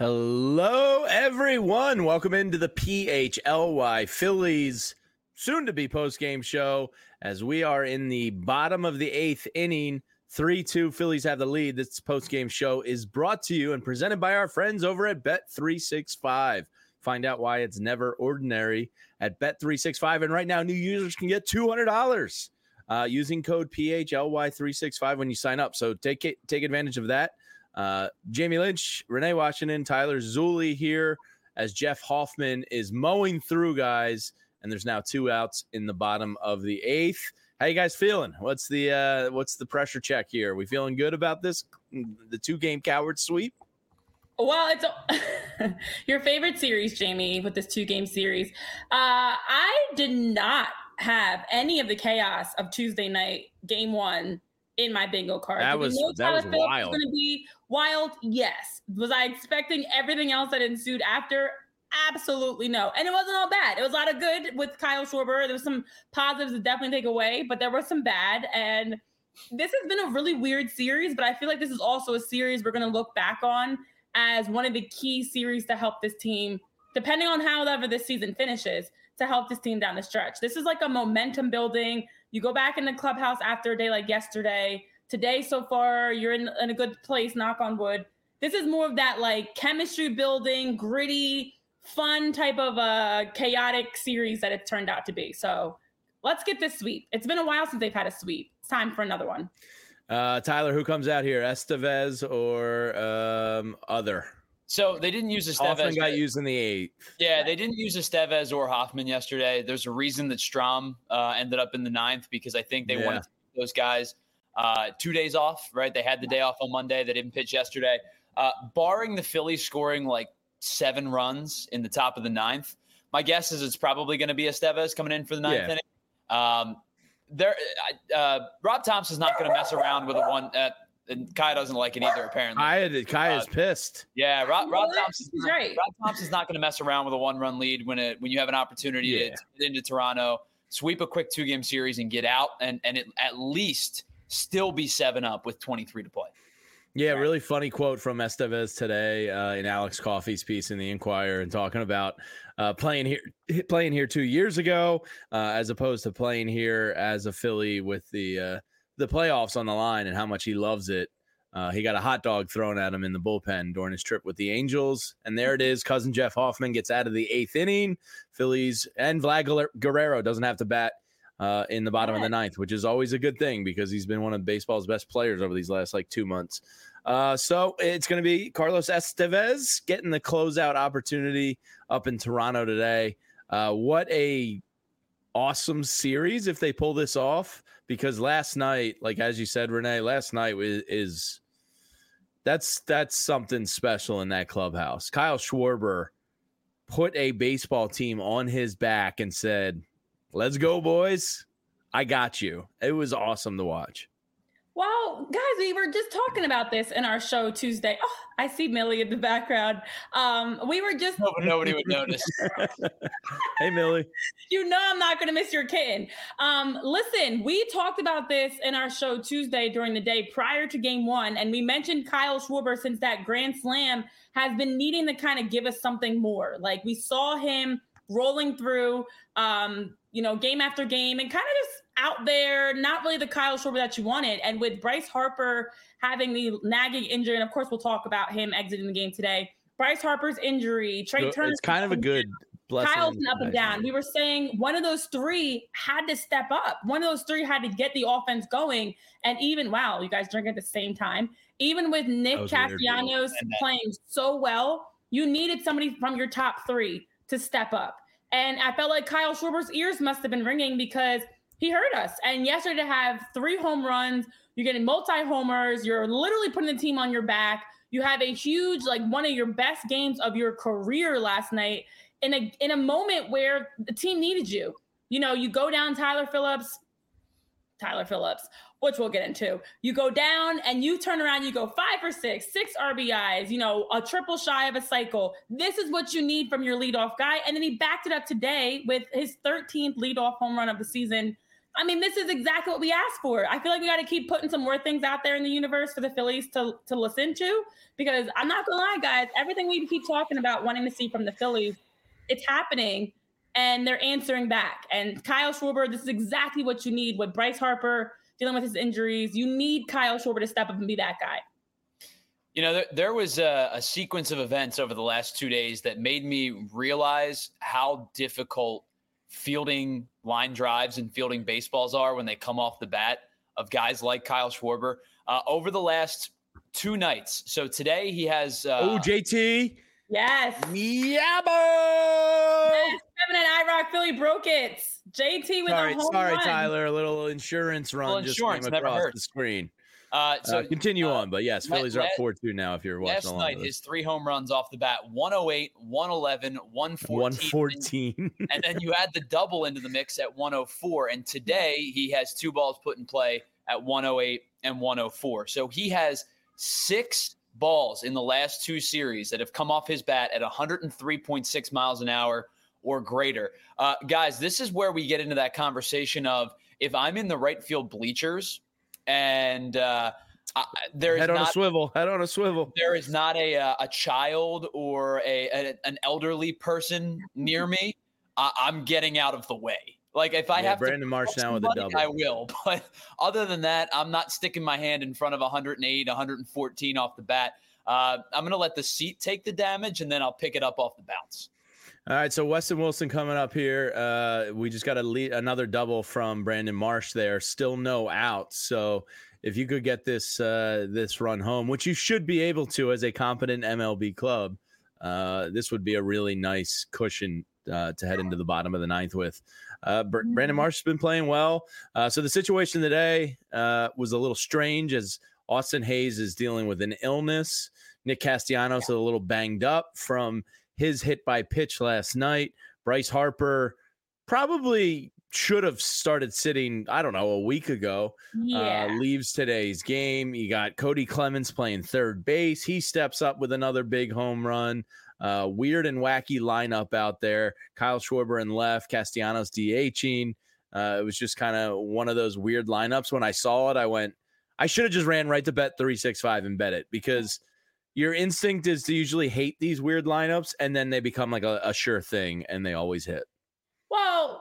Hello, everyone. Welcome into the PHLY Phillies soon-to-be post-game show as we are in the bottom of the eighth inning. 3-2 Phillies have the lead. This post-game show is brought to you and presented by our friends over at Bet365. Find out why it's never ordinary at Bet365. And right now, new users can get $200 using code PHLY365 when you sign up. So take advantage of that. Jamie Lynch, Renee Washington, Tyler Zulli here as Jeff Hoffman is mowing through, guys, and there's now 2 outs in the bottom of the eighth. How you guys feeling? What's the pressure check here? Are we feeling good about this, the 2-game coward sweep? Well, it's your favorite series, Jamie, with this 2-game series. I did not have any of the chaos of Tuesday night, game 1, in my bingo card. That was wild. Was going to be wild? Yes. Was I expecting everything else that ensued after? Absolutely no. And it wasn't all bad. It was a lot of good with Kyle Schwarber. There was some positives to definitely take away, but there was some bad. And this has been a really weird series, but I feel like this is also a series we're going to look back on as one of the key series to help this team, depending on however this season finishes, to help this team down the stretch. This is like a momentum building. You go back in the clubhouse after a day like yesterday. Today, so far, you're in a good place, knock on wood. This is more of that like chemistry building, gritty, fun type of chaotic series that it's turned out to be. So let's get this sweep. It's been a while since they've had a sweep. It's time for another one. Tyler, who comes out here, Estevez or other? So they didn't use Estevez. Hoffman got used in the eighth. Yeah, they didn't use Estevez or Hoffman yesterday. There's a reason that Strahm ended up in the ninth because I think they wanted to give those guys 2 days off, right? They had the day off on Monday. They didn't pitch yesterday. Barring the Phillies scoring like 7 runs in the top of the ninth, my guess is it's probably going to be Estevez coming in for the ninth inning. Rob Thompson's not going to mess around with a one. And Kai doesn't like it either, apparently. Kai is pissed. Yeah, Rob Thompson's right. Rob Thompson's not going to mess around with a 1-run lead when you have an opportunity to get into Toronto, sweep a quick 2-game series and get out and at least still be 7-up with 23 to play. Yeah, really funny quote from Estevez today in Alex Coffey's piece in the Inquirer and talking about playing here 2 years ago as opposed to playing here as a Philly with the playoffs on the line and how much he loves it. He got a hot dog thrown at him in the bullpen during his trip with the Angels. And there it is. Cousin Jeff Hoffman gets out of the 8th inning. Phillies and Vlad Guerrero doesn't have to bat in the bottom of the 9th, which is always a good thing because he's been one of baseball's best players over these last 2 months. So it's going to be Carlos Estevez getting the closeout opportunity up in Toronto today. What a awesome series if they pull this off, because last night, like as you said, Renee, last night that's something special in that clubhouse. Kyle Schwarber put a baseball team on his back and said, "Let's go, boys. I got you." It was awesome to watch. Well, guys, we were just talking about this in our show Tuesday. Oh, I see Millie in the background. We were just nobody would notice. Hey, Millie. You know I'm not going to miss your kitten. Listen, we talked about this in our show Tuesday during the day prior to game 1, and we mentioned Kyle Schwarber since that grand slam has been needing to kind of give us something more. Like we saw him rolling through, game after game and kind of just out there, not really the Kyle Schwarber that you wanted. And with Bryce Harper having the nagging injury, and of course we'll talk about him exiting the game today, Bryce Harper's injury, Trey Turner. It's kind of a good blessing. Kyle's up and down. We were saying one of those 3 had to step up. One of those 3 had to get the offense going. And even, wow, you guys drink at the same time. Even with Nick Castellanos playing so well, you needed somebody from your top 3 to step up. And I felt like Kyle Schwarber's ears must have been ringing because he hurt us. And yesterday to have 3 home runs, you're getting multi-homers, you're literally putting the team on your back. You have a huge, one of your best games of your career last night in a moment where the team needed you. You go down Tyler Phillips, which we'll get into. You go down and you turn around, you go 5 for 6 RBIs, a triple shy of a cycle. This is what you need from your leadoff guy. And then he backed it up today with his 13th leadoff home run of the season. I mean, this is exactly what we asked for. I feel like we got to keep putting some more things out there in the universe for the Phillies to listen to, because I'm not going to lie, guys, everything we keep talking about wanting to see from the Phillies, it's happening, and they're answering back. And Kyle Schwarber, this is exactly what you need with Bryce Harper dealing with his injuries. You need Kyle Schwarber to step up and be that guy. You know, there was a sequence of events over the last 2 days that made me realize how difficult fielding line drives and fielding baseballs are when they come off the bat of guys like Kyle Schwarber over the last 2 nights. So today he has JT. Yes. Yeah, boy. Yes, Kevin and IROC Philly broke it. JT with a home sorry, run. Tyler. A little insurance run just came across the screen. So continue on, but yes, Phillies are up 4-2 now if you're watching along. Last night, his 3 home runs off the bat, 108, 111, 114. And then you add the double into the mix at 104. And today he has 2 balls put in play at 108 and 104. So he has 6 balls in the last 2 series that have come off his bat at 103.6 miles an hour or greater. Guys, this is where we get into that conversation of, if I'm in the right field bleachers and there is head on a swivel. There is not a child or an elderly person near me, I'm getting out of the way. Like, if I have Brandon Marsh now with a double, I will. But other than that, I'm not sticking my hand in front of 108, 114 off the bat. I'm going to let the seat take the damage, and then I'll pick it up off the bounce. All right, so Weston Wilson coming up here. We just got another double from Brandon Marsh there. Still no outs. So if you could get this run home, which you should be able to as a competent MLB club, this would be a really nice cushion to head into the bottom of the 9th with. Brandon Marsh has been playing well. So the situation today was a little strange as Austin Hayes is dealing with an illness. Nick Castellanos is a little banged up from his hit by pitch last night. Bryce Harper probably should have started sitting, I don't know, a week ago. Leaves today's game. You got Cody Clemens playing third base. He steps up with another big home run. Weird and wacky lineup out there. Kyle Schwarber in left, Castellanos DHing. It was just kind of one of those weird lineups. When I saw it, I went, I should have just ran right to Bet 365 and bet it, because your instinct is to usually hate these weird lineups, and then they become like a sure thing, and they always hit. Well,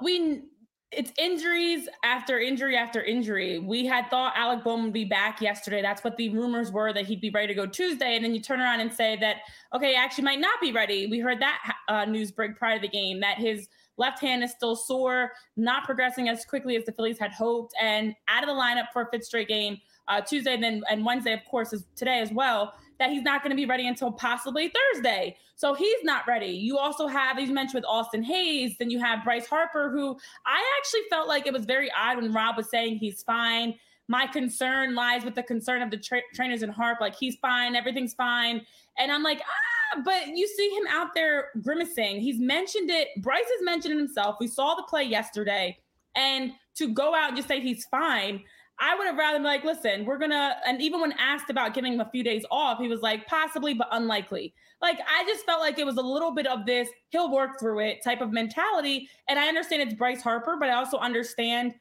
it's injuries after injury after injury. We had thought Alec Bohm would be back yesterday. That's what the rumors were, that he'd be ready to go Tuesday. And then you turn around and say that, okay, actually might not be ready. We heard that news break prior to the game, that his left hand is still sore, not progressing as quickly as the Phillies had hoped, and out of the lineup for a 5th straight game Tuesday, and Wednesday, of course, is today as well, that he's not going to be ready until possibly Thursday. So he's not ready. You also have, as you mentioned, with Austin Hayes, then you have Bryce Harper, who I actually felt like it was very odd when Rob was saying he's fine. My concern lies with the concern of the trainers and Harp, like, he's fine, everything's fine. And I'm like, but you see him out there grimacing. He's mentioned it. Bryce has mentioned it himself. We saw the play yesterday. And to go out and just say he's fine, I would have rather been like, listen, and even when asked about giving him a few days off, he was like, possibly, but unlikely. Like, I just felt like it was a little bit of this, he'll work through it type of mentality. And I understand it's Bryce Harper, but I also understand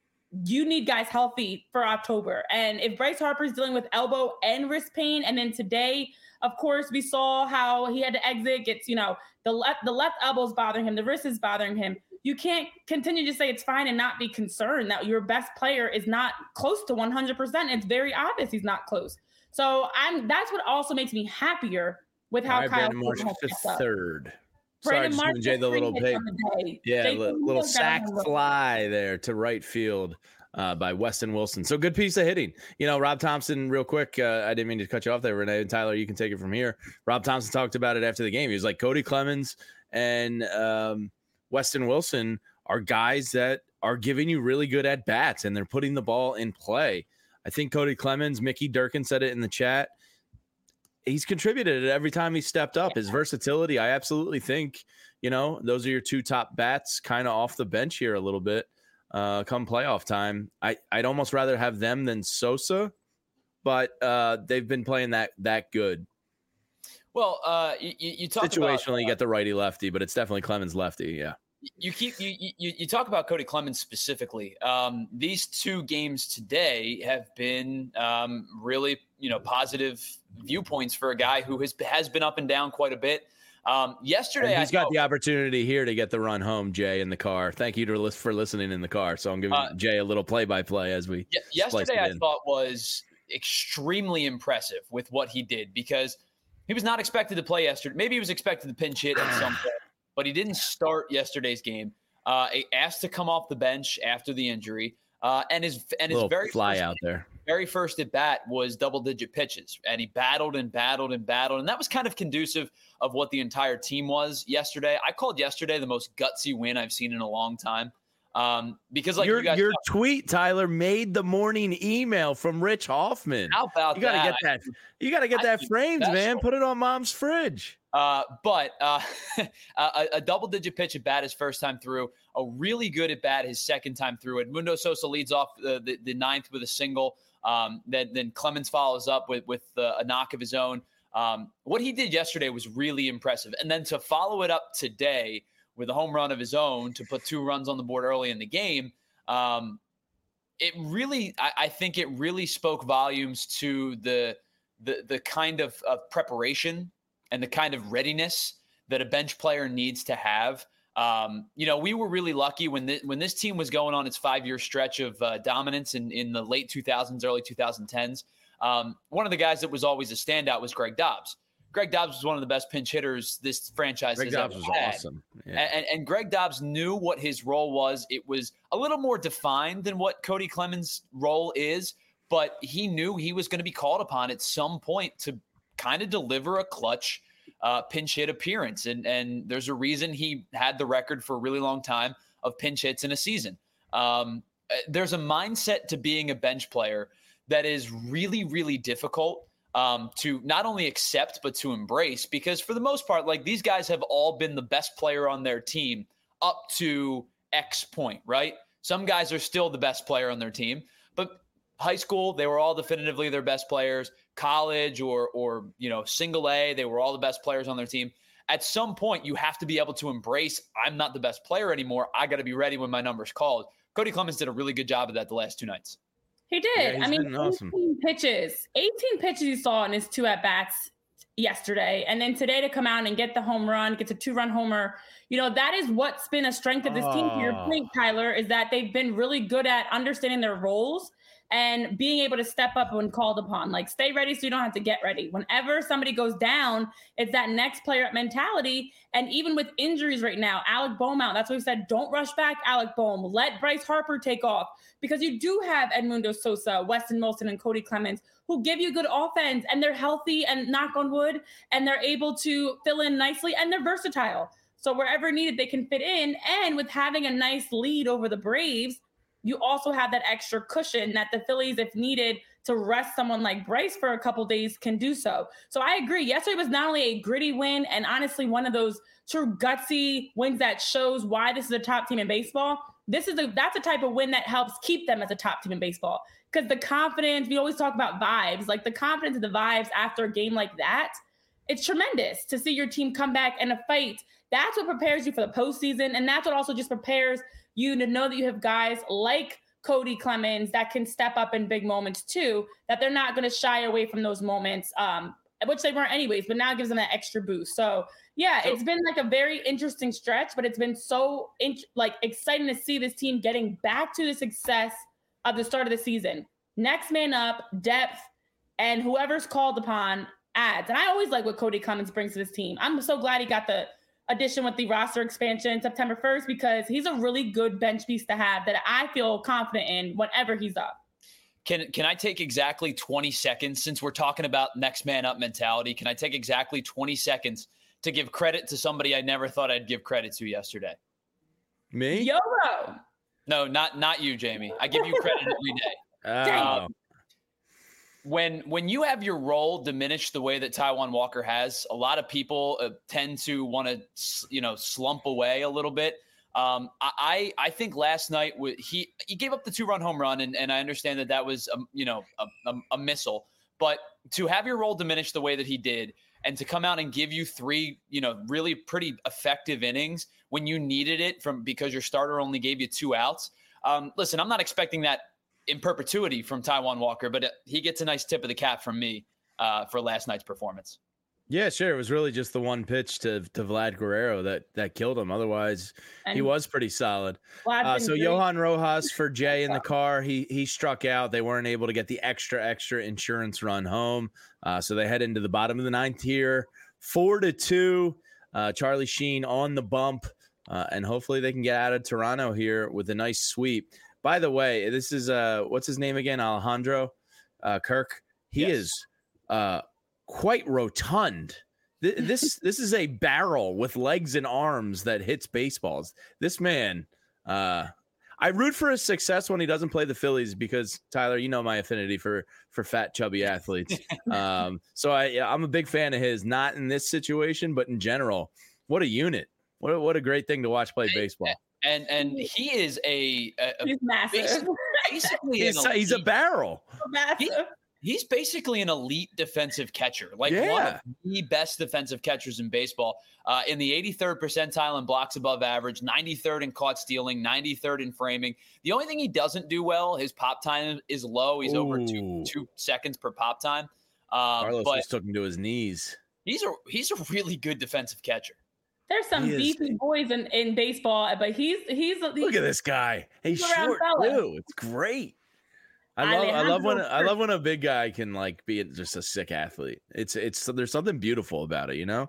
you need guys healthy for October. And if Bryce Harper's dealing with elbow and wrist pain, and then today, of course, we saw how he had to exit, gets, the left elbow's bothering him, the wrist is bothering him. You can't continue to say it's fine and not be concerned that your best player is not close to 100%. It's very obvious he's not close. So that's what also makes me happier with how Kyle Marsh to third. Brandon Sorry, Marsh Jay, the little pig. Yeah, little sack fly there to right field by Weston Wilson. So good piece of hitting. Rob Thompson, real quick, I didn't mean to cut you off there, Renee and Tyler, you can take it from here. Rob Thompson talked about it after the game. He was like, Cody Clemens and Weston Wilson are guys that are giving you really good at-bats, and they're putting the ball in play. I think Cody Clemens, Mickey Durkin said it in the chat, he's contributed every time he stepped up. His versatility, I absolutely think, those are your 2 top bats kind of off the bench here a little bit come playoff time. I'd almost rather have them than Sosa, but they've been playing that good. Well, you talk situationally, about, you get the righty lefty, but it's definitely Clemens lefty. Yeah. You talk about Cody Clemens specifically. These two games today have been really positive viewpoints for a guy who has been up and down quite a bit. Yesterday, and he's got the opportunity here to get the run home, Jay, in the car. Thank you for listening in the car. So I'm giving Jay a little play-by-play as we. Yesterday, I thought was extremely impressive with what he did because he was not expected to play yesterday. Maybe he was expected to pinch hit at some point, but he didn't start yesterday's game. Asked to come off the bench after the injury, and his very fly out there. Very first at bat was double-digit pitches, and he battled, and that was kind of conducive of what the entire team was yesterday. I called yesterday the most gutsy win I've seen in a long time. Because like your tweet, Tyler, made the morning email from Rich Hoffman. How about that? You gotta get that framed, man. Put it on Mom's fridge. But a double-digit pitch at bat his first time through, a really good at bat his second time through. Edmundo Sosa leads off the ninth with a single. Then Clemens follows up with a knock of his own. What he did yesterday was really impressive. And then to follow it up today with a home run of his own to put 2 runs on the board early in the game, I think it really spoke volumes to the kind of preparation and the kind of readiness that a bench player needs to have. We were really lucky when this team was going on its 5-year stretch of dominance in the late 2000s, early 2010s. One of the guys that was always a standout was Greg Dobbs. Greg Dobbs was one of the best pinch hitters this franchise has ever had. Greg Dobbs was awesome. Yeah. And Greg Dobbs knew what his role was. It was a little more defined than what Cody Clemens' role is, but he knew he was going to be called upon at some point to kind of deliver a clutch pinch hit appearance. And there's a reason he had the record for a really long time of pinch hits in a season. There's a mindset to being a bench player that is really, really difficult to not only accept, but to embrace, because for the most part, like, these guys have all been the best player on their team up to X point, right? Some guys are still the best player on their team, but high school, they were all definitively their best players. College or single A, they were all the best players on their team. At some point, you have to be able to embrace, I'm not the best player anymore. I got to be ready when my number's called. Cody Clemens did a really good job of that the last 2 nights. He did. Yeah, 18 awesome. pitches he saw in his 2 at-bats yesterday. And then today to come out and get the home run, gets a 2-run homer. That is what's been a strength of this team, to your point, Tyler, is that they've been really good at understanding their roles and being able to step up when called upon. Like, stay ready so you don't have to get ready. Whenever somebody goes down, it's that next player up mentality. And even with injuries right now, Alec Bohm out, that's what we said, don't rush back, Alec Bohm. Let Bryce Harper take off, because you do have Edmundo Sosa, Weston Wilson, and Cody Clemens, who give you good offense, and they're healthy, and knock on wood, and they're able to fill in nicely, and they're versatile. So wherever needed, they can fit in. And with having a nice lead over the Braves, you also have that extra cushion that the Phillies, if needed to rest someone like Bryce for a couple days, can do so. So I agree. Yesterday was not only a gritty win, and honestly one of those true gutsy wins that shows why this is a top team in baseball. That's a type of win that helps keep them as a top team in baseball, because the confidence, we always talk about vibes, like the confidence of the vibes after a game like that, it's tremendous to see your team come back in a fight. That's what prepares you for the postseason, and that's what also just prepares you to know that you have guys like Cody Clemens that can step up in big moments too, that they're not going to shy away from those moments, which they weren't anyways, but now it gives them that extra boost. So it's been like a very interesting stretch, but it's been so exciting to see this team getting back to the success of the start of the season. Next man up, depth, and whoever's called upon adds. And I always like what Cody Clemens brings to this team. I'm so glad he got the addition with the roster expansion September 1st, because he's a really good bench piece to have that I feel confident in whenever he's up. Can I take exactly 20 seconds, since we're talking about next man up mentality? Can I take exactly 20 seconds to give credit to somebody I never thought I'd give credit to yesterday? Me? YOLO. No, not you, Jamie. I give you credit every day. When you have your role diminished the way that Taijuan Walker has, a lot of people tend to want to, slump away a little bit. I think last night he gave up the 2-run home run, and I understand that was a missile. But to have your role diminished the way that he did, and to come out and give you 3, really pretty effective innings when you needed it because your starter only gave you 2 outs. Listen, I'm not expecting that in perpetuity from Taijuan Walker, but he gets a nice tip of the cap from me for last night's performance. Yeah, sure. It was really just the one pitch to Vlad Guerrero that killed him. Otherwise, he was pretty solid. So Johan Rojas for Jay in the car. He struck out. They weren't able to get the extra insurance run home. So they head into the bottom of the 9th here, 4-2. Charlie Sheen on the bump, and hopefully they can get out of Toronto here with a nice sweep. By the way, this is what's his name again? Alejandro Kirk. He is quite rotund. This is a barrel with legs and arms that hits baseballs. This man, I root for his success when he doesn't play the Phillies because, Tyler, you know my affinity for fat, chubby athletes. So I'm a big fan of his, not in this situation, but in general. What a unit. What a great thing to watch play baseball. And he is he's massive. Basically, he's a barrel. Massive. He's basically an elite defensive catcher, one of the best defensive catchers in baseball. In the 83rd percentile in blocks above average, 93rd in caught stealing, 93rd in framing. The only thing he doesn't do well, his pop time is low. He's over 2 seconds per pop time. Carlos just took him to his knees. He's a really good defensive catcher. There's some beefy boys in baseball, but he's look at this guy. He's short too. It's great. I love when a big guy can be just a sick athlete. It's there's something beautiful about it, you know.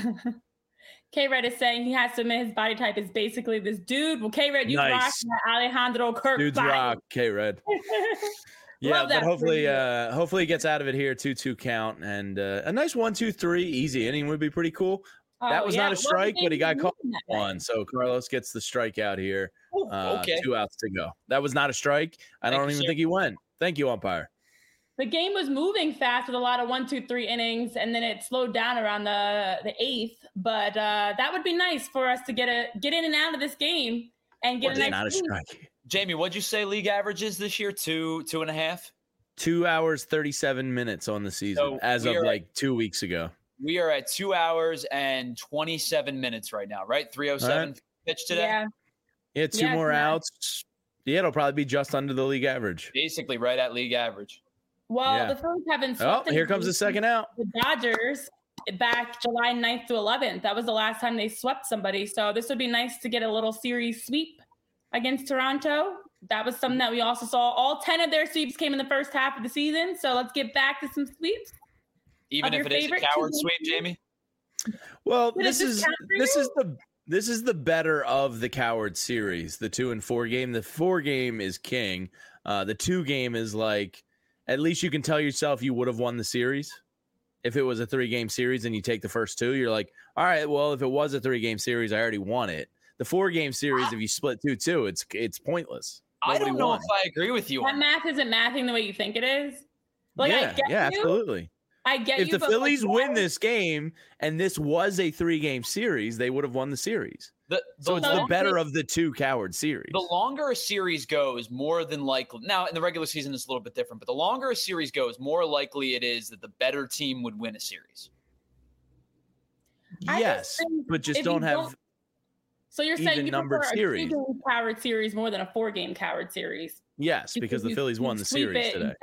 K-Red is saying he has to admit his body type is basically this dude. Well, K-Red, you rock that Alejandro Kirk. Dudes body. rock, K-Red. Yeah, but hopefully he gets out of it here. 2-2 count and a nice 1-2-3 easy inning would be pretty cool. That was not a strike, but he got caught on. So Carlos gets the strikeout here. Okay. 2 outs to go. That was not a strike. I don't even think he went. Thank you, umpire. The game was moving fast with a lot of 1-2-3 innings, and then it slowed down around the 8th. But that would be nice for us to get in and out of this game and get a nice. Not a strike. Jamie, what'd you say league averages this year? 2.5. 2 hours 37 minutes on the season as of 2 weeks ago. We are at 2 hours and 27 minutes right now, right? 3:07 pitch today. Yeah, 2 more outs. Yeah, it'll probably be just under the league average. Basically, right at league average. Well, the Phillies haven't swept. Oh, here comes the second out. The Dodgers back July 9th to 11th. That was the last time they swept somebody. So this would be nice to get a little series sweep against Toronto. That was something that we also saw. All 10 of their sweeps came in the first half of the season. So let's get back to some sweeps. Even if it is a coward sweep, Jamie? Well, this is the better of the coward series, the 2 and 4 game. The 4 game is king. The 2 game is at least you can tell yourself you would have won the series. If it was a 3-game series and you take the first 2, you're like, all right, well, if it was a 3-game series, I already won it. The 4-game series, if you split 2-2, it's pointless. Nobody I don't know won. if I agree with you. That math isn't mathing the way you think it is. Absolutely. I get if the Phillies win this game and this was a 3-game series, they would have won the series. So it's the better of the 2 coward series. The longer a series goes, more than likely. Now, in the regular season, it's a little bit different, but the longer a series goes, more likely it is that the better team would win a series. Yes, but just don't have. So you're saying you prefer a series. 2-game coward series more than a 4-game coward series? Yes, because the Phillies won the series today.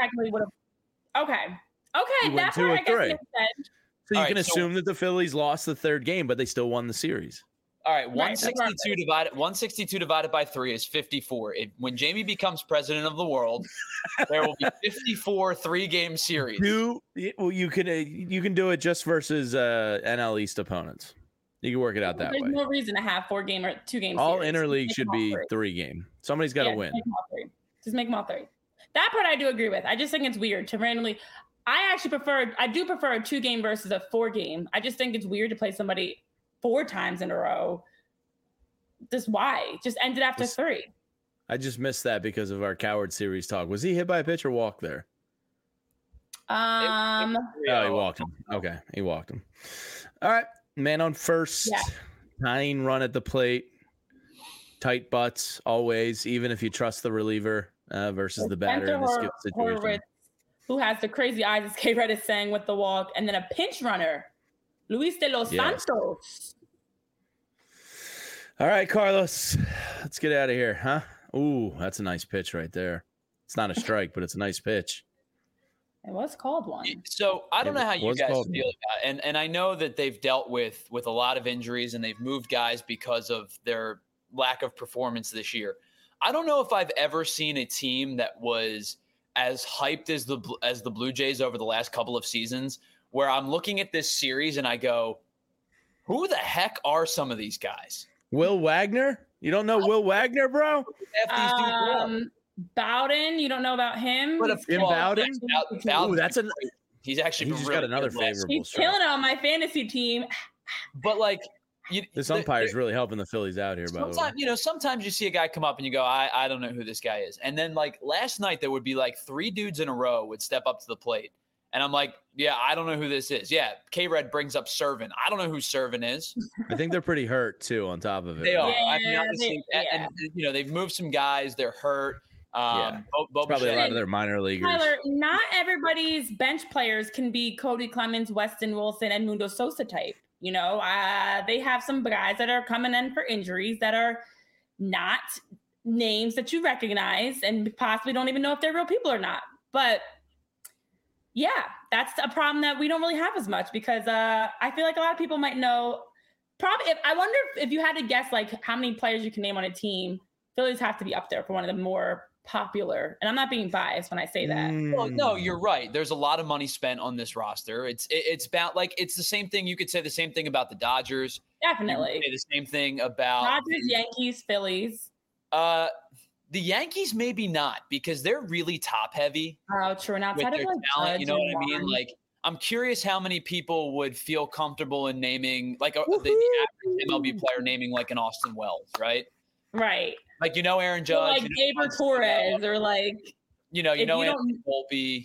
Okay, that's what I guess it said. So you can assume that the Phillies lost the 3rd game, but they still won the series. All right, 162 divided by 3 is 54. When Jamie becomes president of the world, there will be 54 3-game series. You can do it just versus NL East opponents. You can work it out that way. There's no reason to have 4-game or 2-game all series. interleague should be 3-game. Somebody's got to win. Just make them all 3. That part I do agree with. I just think it's weird to randomly. I do prefer a 2-game versus a 4-game. I just think it's weird to play somebody 4 times in a row. Just why? Just end it after 3. I just missed that because of our coward series talk. Was he hit by a pitch or walk there? He walked him. Okay, he walked him. All right, man on first. Yeah. Tying run at the plate. Tight butts always, even if you trust the reliever versus the batter in this situation. Horowitz, who has the crazy eyes, as K-Red is saying, with the walk, and then a pinch runner Luis de los Santos. All right, Carlos, let's get out of here, huh? Ooh, that's a nice pitch right there. It's not a strike, but it's a nice pitch. It was called one. So I don't know how you guys feel about it. And I know that they've dealt with a lot of injuries and they've moved guys because of their lack of performance this year. I don't know if I've ever seen a team that was as hyped as the Blue Jays over the last couple of seasons, where I'm looking at this series and I go, who the heck are some of these guys? Will Wagner? You don't know Will Wagner, bro? Bowden, you don't know about him? Bowden? Bowden. He's actually really got another favorable. He's killing it on my fantasy team. But like, this umpire's really helping the Phillies out here. By the way, sometimes you see a guy come up and you go, I don't know who this guy is. And then like last night, there would be like 3 dudes in a row would step up to the plate. And I'm like, yeah, I don't know who this is. Yeah, K-Red brings up Servin. I don't know who Servin is. I think they're pretty hurt, too, on top of it. They are. I mean, honestly, and they've moved some guys. They're hurt. Probably a lot of their minor leaguers. Tyler, not everybody's bench players can be Cody Clemens, Weston Wilson, and Mundo Sosa type. They have some guys that are coming in for injuries that are not names that you recognize and possibly don't even know if they're real people or not. But yeah, that's a problem that we don't really have as much because I feel like a lot of people might know. Probably, I wonder if you had to guess like how many players you can name on a team, Phillies have to be up there for one of the more popular. And I'm not being biased when I say that. Well, no, you're right. There's a lot of money spent on this roster. It's about like it's the same thing. You could say the same thing about the Dodgers. Definitely. You could say the same thing about Dodgers, Yankees, Phillies. The Yankees maybe not because they're really top heavy. Oh, true. And outside of talent, you know what I mean? Like, I'm curious how many people would feel comfortable in naming like the average MLB player naming like an Austin Wells, right? Right. Like Aaron Judge, like Gabriel Torres, or like Anthony Volpe.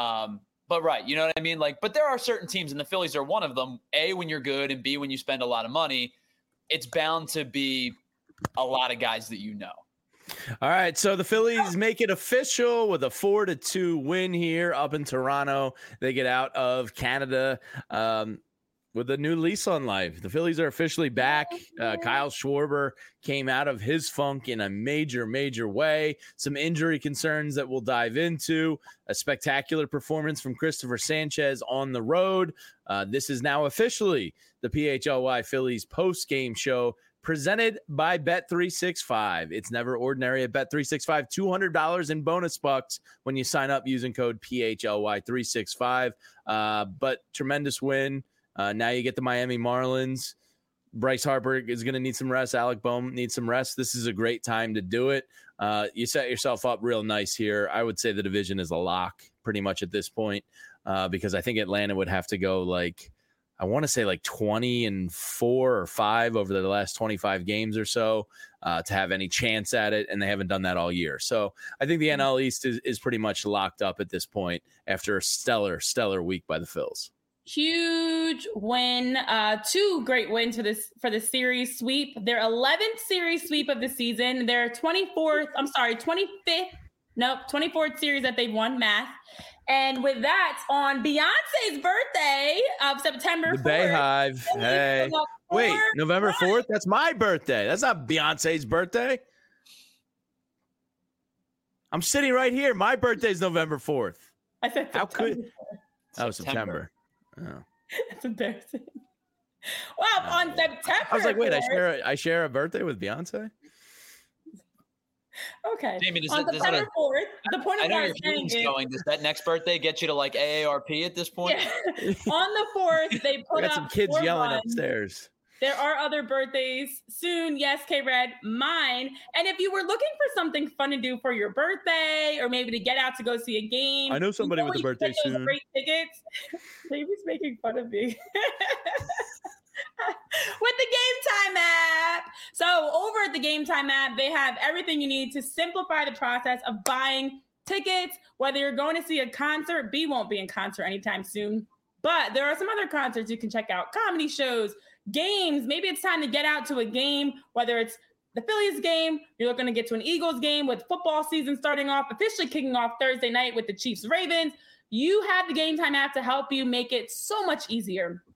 But right, you know what I mean? Like, but there are certain teams, and the Phillies are one of them. A, when you're good, and B, when you spend a lot of money, it's bound to be a lot of guys that you know. All right, so the Phillies make it official with a 4-2 win here up in Toronto. They get out of Canada with a new lease on life. The Phillies are officially back. Kyle Schwarber came out of his funk in a major, major way. Some injury concerns that we'll dive into. A spectacular performance from Christopher Sanchez on the road. This is now officially the PHLY Phillies post-game show, presented by Bet365. It's never ordinary at Bet365. $200 in bonus bucks when you sign up using code PHLY365. But tremendous win. Now you get the Miami Marlins. Bryce Harper is going to need some rest. Alec Bohm needs some rest. This is a great time to do it. You set yourself up real nice here. I would say the division is a lock pretty much at this point because I think Atlanta would have to go like, I want to say like 20-4 or 5 over the last 25 games or so to have any chance at it, and they haven't done that all year. So I think the NL East is pretty much locked up at this point after a stellar week by the Phils. Huge win, 2 great wins for the series sweep. Their 11th series sweep of the season. Their 24th series that they've won, math. And with that, on Beyonce's birthday of September 4th. The Bayhive. Hey. Wait, November 4th? That's my birthday. That's not Beyonce's birthday. I'm sitting right here. My birthday's November 4th. I said September. How could? Oh, September. Oh. That's embarrassing. Well, on September. I was like, wait, I share a birthday with Beyonce? Okay. Jamie, on September 4th, the point of what I'm saying is, does that next birthday get you to like AARP at this point? Yeah. On the 4th, they put up some kids yelling upstairs. There are other birthdays soon. Yes, K-Red, mine. And if you were looking for something fun to do for your birthday or maybe to get out to go see a game. I know somebody with a birthday soon. Great tickets. Baby's making fun of me. With the Game Time app. So over at the Game Time app, they have everything you need to simplify the process of buying tickets. Whether you're going to see a concert, B won't be in concert anytime soon. But there are some other concerts you can check out. Comedy shows, games. Maybe it's time to get out to a game, whether it's the Phillies game, you're looking to get to an Eagles game with football season starting off, officially kicking off Thursday night with the Chiefs Ravens. You have the Game Time app to help you make it so much easier.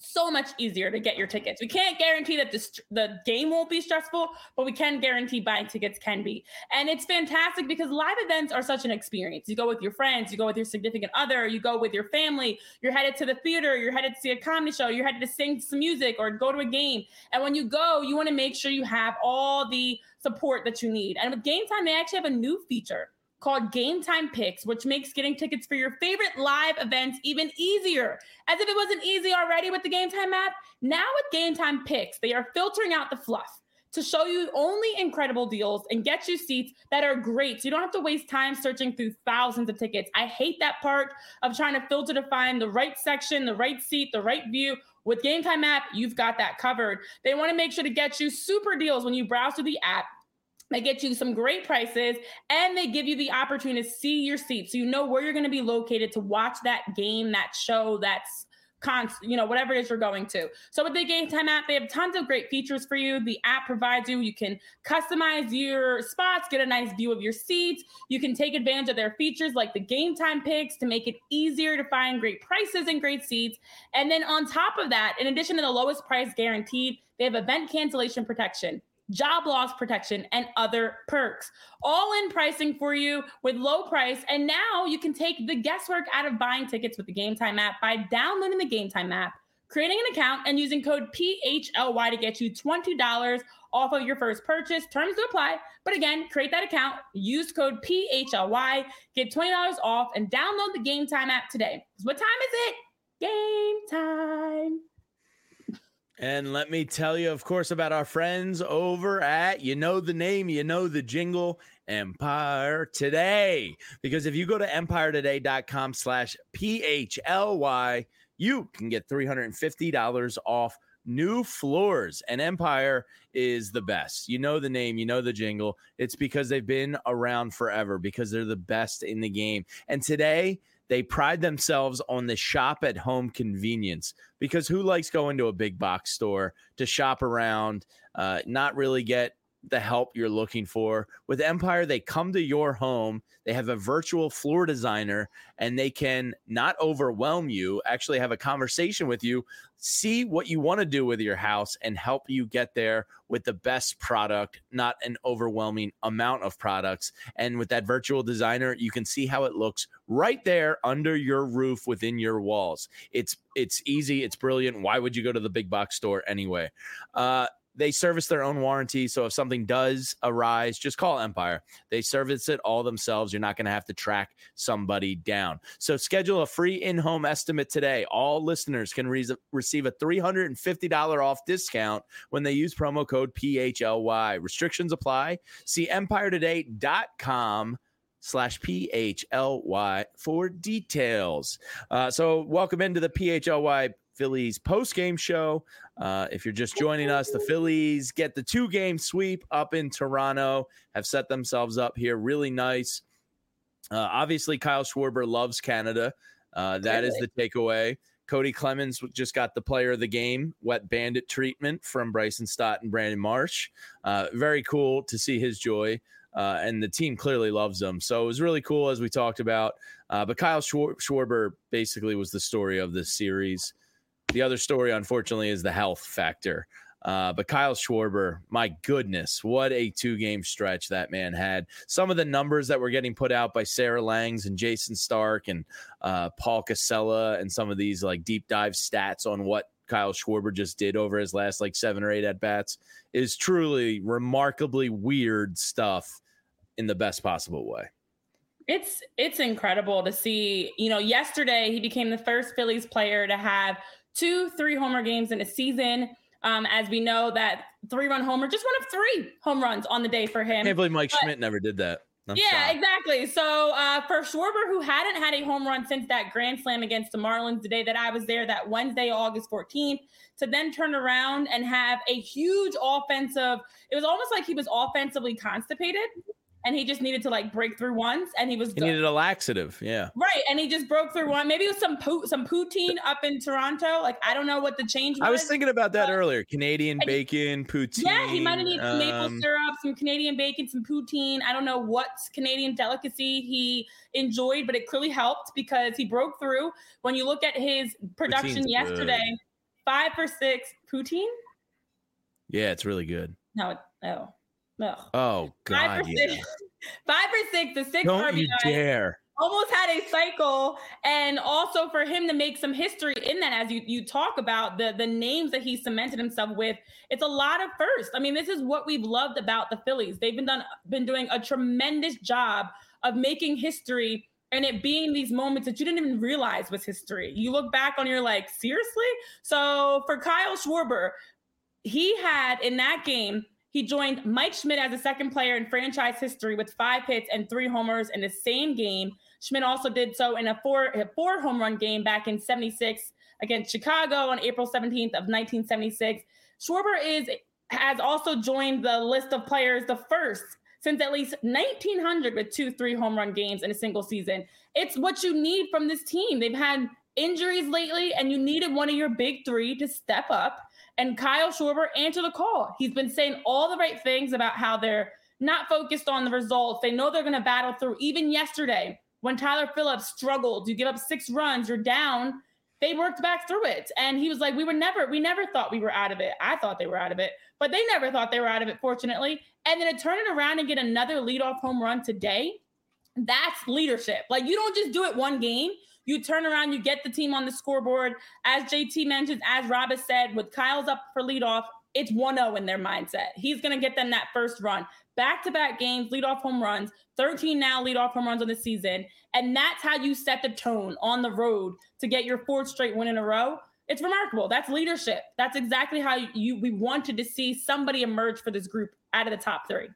so much easier to get your tickets. We can't guarantee that the game won't be stressful, but we can guarantee buying tickets can be. And it's fantastic because live events are such an experience. You go with your friends, you go with your significant other, you go with your family, you're headed to the theater, you're headed to see a comedy show, you're headed to sing some music or go to a game. And when you go, you want to make sure you have all the support that you need. And with Game Time, they actually have a new feature called Game Time Picks, which makes getting tickets for your favorite live events even easier. As if it wasn't easy already with the Game Time app, now with Game Time Picks, they are filtering out the fluff to show you only incredible deals and get you seats that are great. So you don't have to waste time searching through thousands of tickets. I hate that part of trying to filter to find the right section, the right seat, the right view. With Game Time app, you've got that covered. They want to make sure to get you super deals when you browse through the app. They get you some great prices, and they give you the opportunity to see your seat so you know where you're going to be located to watch that game, that show, that's whatever it is you're going to. So with the Game Time app, they have tons of great features for you. The app provides you can customize your spots, get a nice view of your seats. You can take advantage of their features like the Game Time Picks to make it easier to find great prices and great seats. And then on top of that, in addition to the lowest price guaranteed, they have event cancellation protection, job loss protection, and other perks. All in pricing for you with low price. And now you can take the guesswork out of buying tickets with the Game Time app by downloading the Game Time app, creating an account, and using code PHLY to get you $20 off of your first purchase. Terms to apply. But again, create that account, use code PHLY, get $20 off, and download the Game Time app today. What time is it? Game time. And let me tell you, of course, about our friends over at, you know the name, you know the jingle, Empire Today. Because if you go to empiretoday.com/PHLY, you can get $350 off new floors. And Empire is the best. You know the name, you know the jingle. It's because they've been around forever, because they're the best in the game. And today, they pride themselves on the shop at home convenience, because who likes going to a big box store to shop around, not really get the help you're looking for? With Empire, they come to your home. They have a virtual floor designer, and they can not overwhelm you, actually have a conversation with you, see what you want to do with your house, and help you get there with the best product, not an overwhelming amount of products. And with that virtual designer, you can see how it looks right there under your roof within your walls. It's easy. It's brilliant. Why would you go to the big box store anyway? They service their own warranty, so if something does arise, just call Empire. They service it all themselves. You're not going to have to track somebody down. So schedule a free in-home estimate today. All listeners can receive a $350 off discount when they use promo code PHLY. Restrictions apply. See empiretoday.com/PHLY for details. So welcome into the PHLY Phillies post-game show. If you're just joining us, the Phillies get the 2-game sweep up in Toronto, have set themselves up here really nice. Obviously, Kyle Schwarber loves Canada. That is the takeaway. Cody Clemens just got the player of the game, wet bandit treatment from Bryson Stott and Brandon Marsh. Very cool to see his joy. And the team clearly loves him. So it was really cool, as we talked about. But Kyle Schwarber basically was the story of this series. The other story, unfortunately, is the health factor. But Kyle Schwarber, my goodness, what a 2-game stretch that man had. Some of the numbers that were getting put out by Sarah Langs and Jason Stark and Paul Casella, and some of these like deep dive stats on what Kyle Schwarber just did over his last 7 or 8 at-bats is truly remarkably weird stuff in the best possible way. It's incredible to see. Yesterday he became the first Phillies player to have 2 3-homer games in a season. As we know, that 3-run homer, just one of 3 home runs on the day for him. I can't believe Mike Schmidt never did that. Exactly. So for Schwarber, who hadn't had a home run since that grand slam against the Marlins, the day that I was there, that Wednesday, August 14th, to then turn around and have a huge offensive, it was almost like he was offensively constipated. And he just needed to break through once, and he needed a laxative, yeah. Right, and he just broke through one. Maybe it was some poutine up in Toronto. I don't know what the change was. I was thinking about that earlier. Canadian bacon, poutine. Yeah, he might have needed some maple syrup, some Canadian bacon, some poutine. I don't know what Canadian delicacy he enjoyed, but it clearly helped because he broke through. When you look at his production yesterday, 5 for 6 poutine. Yeah, it's really good. No. Oh God, 5 for 6. 5 for 6. The 6 Don't RBI. you dare. Almost had a cycle, and also for him to make some history in that, as you talk about the names that he cemented himself with, it's a lot of firsts. I mean, this is what we've loved about the Phillies. They've been doing a tremendous job of making history, and it being these moments that you didn't even realize was history. You look back on, you're like, seriously? So for Kyle Schwarber, he had in that game, he joined Mike Schmidt as the second player in franchise history with 5 hits and 3 homers in the same game. Schmidt also did so in a four home run game back in 76 against Chicago on April 17th of 1976. Schwarber has also joined the list of players, the first since at least 1900 with 2 3-home run games in a single season. It's what you need from this team. They've had injuries lately, and you needed one of your big 3 to step up. And Kyle Schwarber answered the call. He's been saying all the right things about how they're not focused on the results. They know they're going to battle through. Even yesterday, when Tyler Phillips struggled, you give up 6 runs, you're down. They worked back through it. And he was like, we never thought we were out of it. I thought they were out of it, but they never thought they were out of it, fortunately. And then to turn it around and get another leadoff home run today, that's leadership. Like, you don't just do it one game. You turn around, you get the team on the scoreboard. As JT mentioned, as Rob has said, with Kyle's up for leadoff, it's 1-0 in their mindset. He's going to get them that first run. Back-to-back games, leadoff home runs, 13 now leadoff home runs on the season. And that's how you set the tone on the road to get your 4th straight win in a row. It's remarkable. That's leadership. That's exactly how we wanted to see somebody emerge for this group out of the top 3.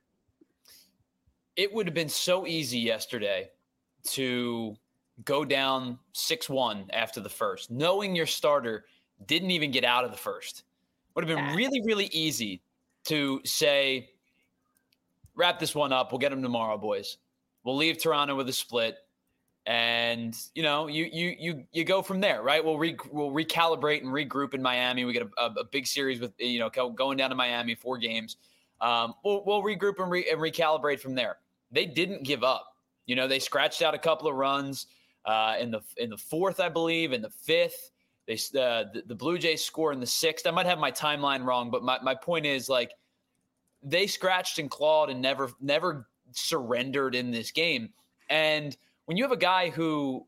It would have been so easy yesterday to go down 6-1 after the first, knowing your starter didn't even get out of the first. Would have been really, really easy to say, wrap this one up. We'll get them tomorrow, boys. We'll leave Toronto with a split. And, you go from there, right? We'll recalibrate and regroup in Miami. We get a big series with, going down to Miami, 4 games. We'll regroup and recalibrate from there. They didn't give up. They scratched out a couple of runs in the 4th, I believe, in the 5th. The Blue Jays score in the 6th. I might have my timeline wrong, but my point is, like, they scratched and clawed and never surrendered in this game. And when you have a guy who,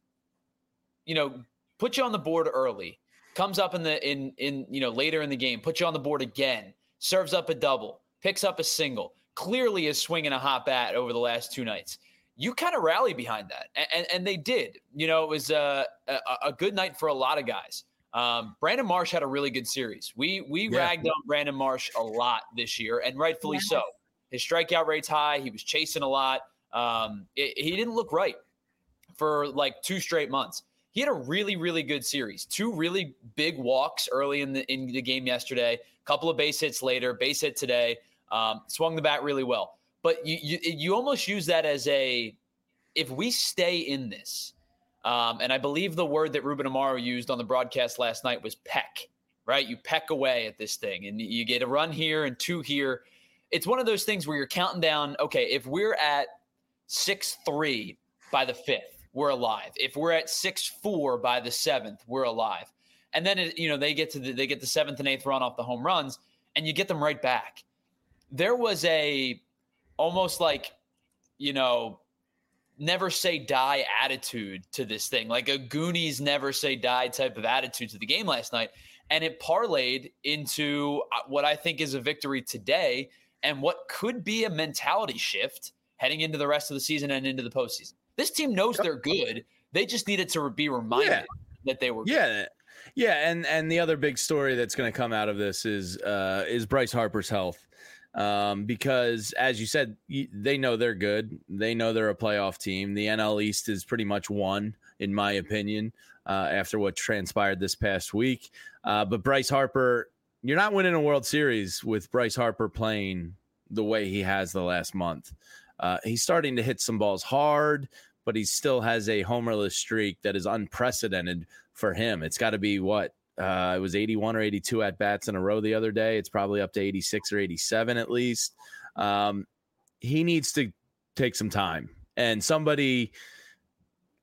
puts you on the board early, comes up in later in the game, puts you on the board again, serves up a double, picks up a single, clearly is swinging a hot bat over the last 2 nights, you kind of rally behind that. And they did. It was a good night for a lot of guys. Brandon Marsh had a really good series. We ragged on Brandon Marsh a lot this year, and rightfully so. His strikeout rate's high. He was chasing a lot. He didn't look right for like 2 straight months. He had a really, really good series. 2 really big walks early in the game yesterday. A couple of base hits later. Base hit today. Swung the bat really well. But you almost use that as if we stay in this. And I believe the word that Ruben Amaro used on the broadcast last night was peck, right? You peck away at this thing, and you get a run here and 2 here. It's one of those things where you're counting down, okay, if we're at 6-3 by the 5th, we're alive. If we're at 6-4 by the 7th, we're alive. And then, they get the 7th and 8th run off the home runs, and you get them right back. There was almost like, never say die attitude to this thing, like a Goonies never say die type of attitude to the game last night. And it parlayed into what I think is a victory today and what could be a mentality shift heading into the rest of the season and into the postseason. This team knows they're good. They just needed to be reminded that they were good. Yeah. And the other big story that's going to come out of this is Bryce Harper's health. Because as you said, they know they're good. They know they're a playoff team. The NL East is pretty much won, in my opinion, after what transpired this past week. But Bryce Harper, you're not winning a World Series with Bryce Harper playing the way he has the last month. He's starting to hit some balls hard, but he still has a homerless streak that is unprecedented for him. It's got to be what? It was 81 or 82 at-bats in a row the other day. It's probably up to 86 or 87 at least. He needs to take some time. And somebody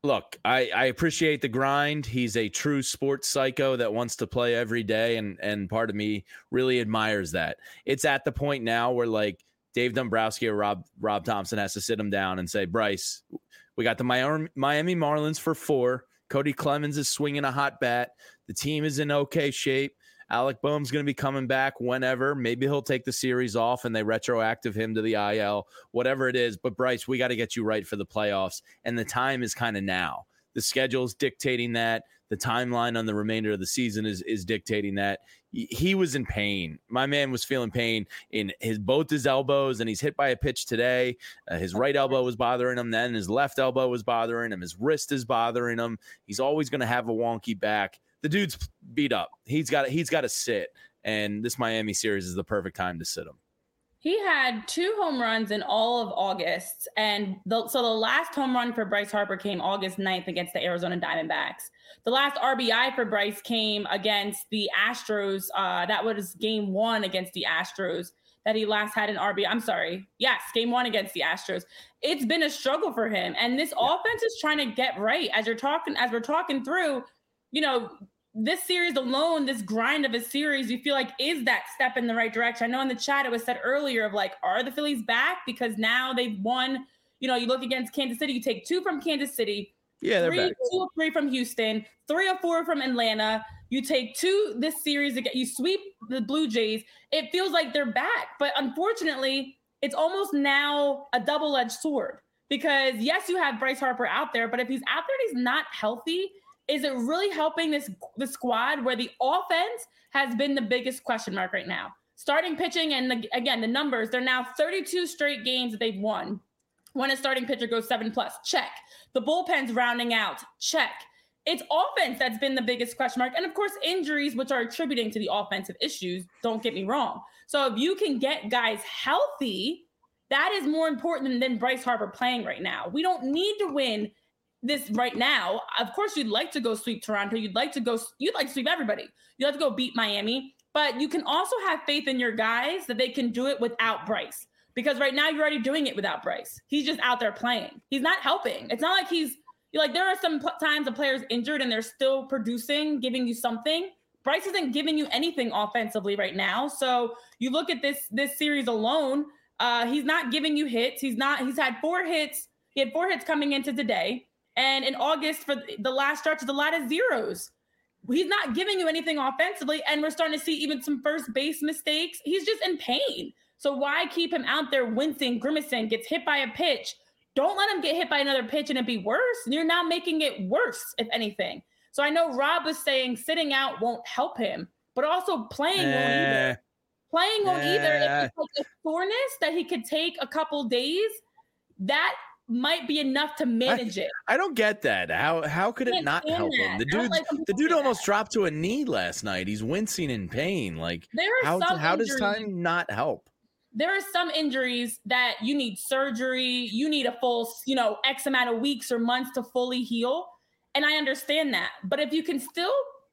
Look, I appreciate the grind. He's a true sports psycho that wants to play every day, and part of me really admires that. It's at the point now where like Dave Dombrowski or Rob Thompson has to sit him down and say, Bryce, we got the Miami Marlins for 4. Cody Clemens is swinging a hot bat. The team is in okay shape. Alec Boehm's going to be coming back whenever. Maybe he'll take the series off and they retroactive him to the IL, whatever it is. But, Bryce, we got to get you right for the playoffs. And the time is kind of now. The schedule's dictating that. The timeline on the remainder of the season is dictating that. He was in pain. My man was feeling pain in both his elbows, and he's hit by a pitch today. His right elbow was bothering him. Then his left elbow was bothering him. His wrist is bothering him. He's always going to have a wonky back. The dude's beat up. He's got to sit, and this Miami series is the perfect time to sit him. He had 2 home runs in all of August, and the last home run for Bryce Harper came August 9th against the Arizona Diamondbacks. The last RBI for Bryce came against the Astros. That was game 1 against the Astros that he last had an RBI. I'm sorry. Yes, game 1 against the Astros. It's been a struggle for him, and this offense is trying to get right. As we're talking through, you know, this series alone, this grind of a series, you feel like is that step in the right direction. I know in the chat it was said earlier of like, are the Phillies back? Because now they've won. You know, you look against Kansas City, you take 2 from Kansas City, yeah, they're back. 2 or 3 from Houston, 3 or 4 from Atlanta. You take 2 this series again, you sweep the Blue Jays. It feels like they're back, but unfortunately, it's almost now a double-edged sword because yes, you have Bryce Harper out there, but if he's out there and he's not healthy, is it really helping the squad where the offense has been the biggest question mark right now? Starting pitching and again, the numbers, they're now 32 straight games that they've won. When a starting pitcher goes 7+, check. The bullpen's rounding out, check. It's offense that's been the biggest question mark. And of course, injuries, which are attributing to the offensive issues, don't get me wrong. So if you can get guys healthy, that is more important than Bryce Harper playing right now. We don't need to win this right now. Of course, you'd like to go sweep Toronto. You'd like to sweep everybody. You'd like to go beat Miami, but you can also have faith in your guys that they can do it without Bryce, because right now you're already doing it without Bryce. He's just out there playing. He's not helping. It's not like there are some times a player's injured and they're still producing, giving you something. Bryce isn't giving you anything offensively right now. So you look at this series alone, he's not giving you hits. He's had 4 hits. He had 4 hits coming into today. And in August, for the last stretch, it's a lot of zeros. He's not giving you anything offensively, and we're starting to see even some first base mistakes. He's just in pain. So why keep him out there wincing, grimacing, gets hit by a pitch? Don't let him get hit by another pitch and it be worse. You're now making it worse, if anything. So I know Rob was saying sitting out won't help him, but also playing won't either. Playing won't either. If it's like a soreness that he could take a couple days, that might be enough to manage it. I don't get that. How could it not help him? The dude almost dropped to a knee last night. He's wincing in pain. Like, how does time not help? There are some injuries that you need surgery. You need a full, X amount of weeks or months to fully heal. And I understand that. But if you can still,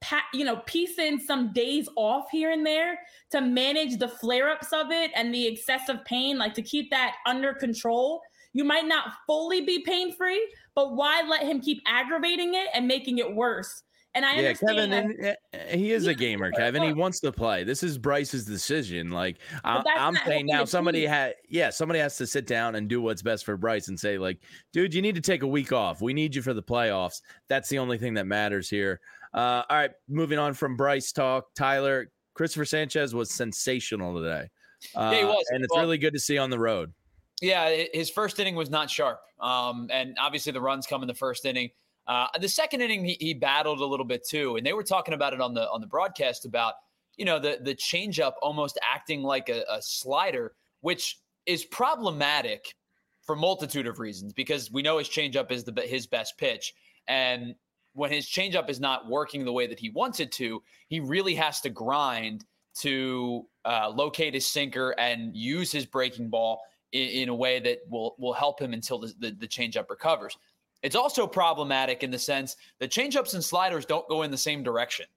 piece in some days off here and there to manage the flare-ups of it and the excessive pain, like to keep that under control, you might not fully be pain-free, but why let him keep aggravating it and making it worse? And I understand Kevin, he is a gamer, Kevin. He wants to play. This is Bryce's decision. Like, I'm saying now somebody has to sit down and do what's best for Bryce and say, like, dude, you need to take a week off. We need you for the playoffs. That's the only thing that matters here. All right, moving on from Bryce talk. Tyler, Christopher Sanchez was sensational today. Yeah, he was. And it's really good to see on the road. Yeah, his first inning was not sharp. And obviously the runs come in the first inning. The second inning, he battled a little bit too. And they were talking about it on the broadcast about, the changeup almost acting like a slider, which is problematic for a multitude of reasons, because we know his changeup is his best pitch. And when his changeup is not working the way that he wants it to, he really has to grind to locate his sinker and use his breaking ball in a way that will help him until the changeup recovers. It's also problematic in the sense that changeups and sliders don't go in the same direction.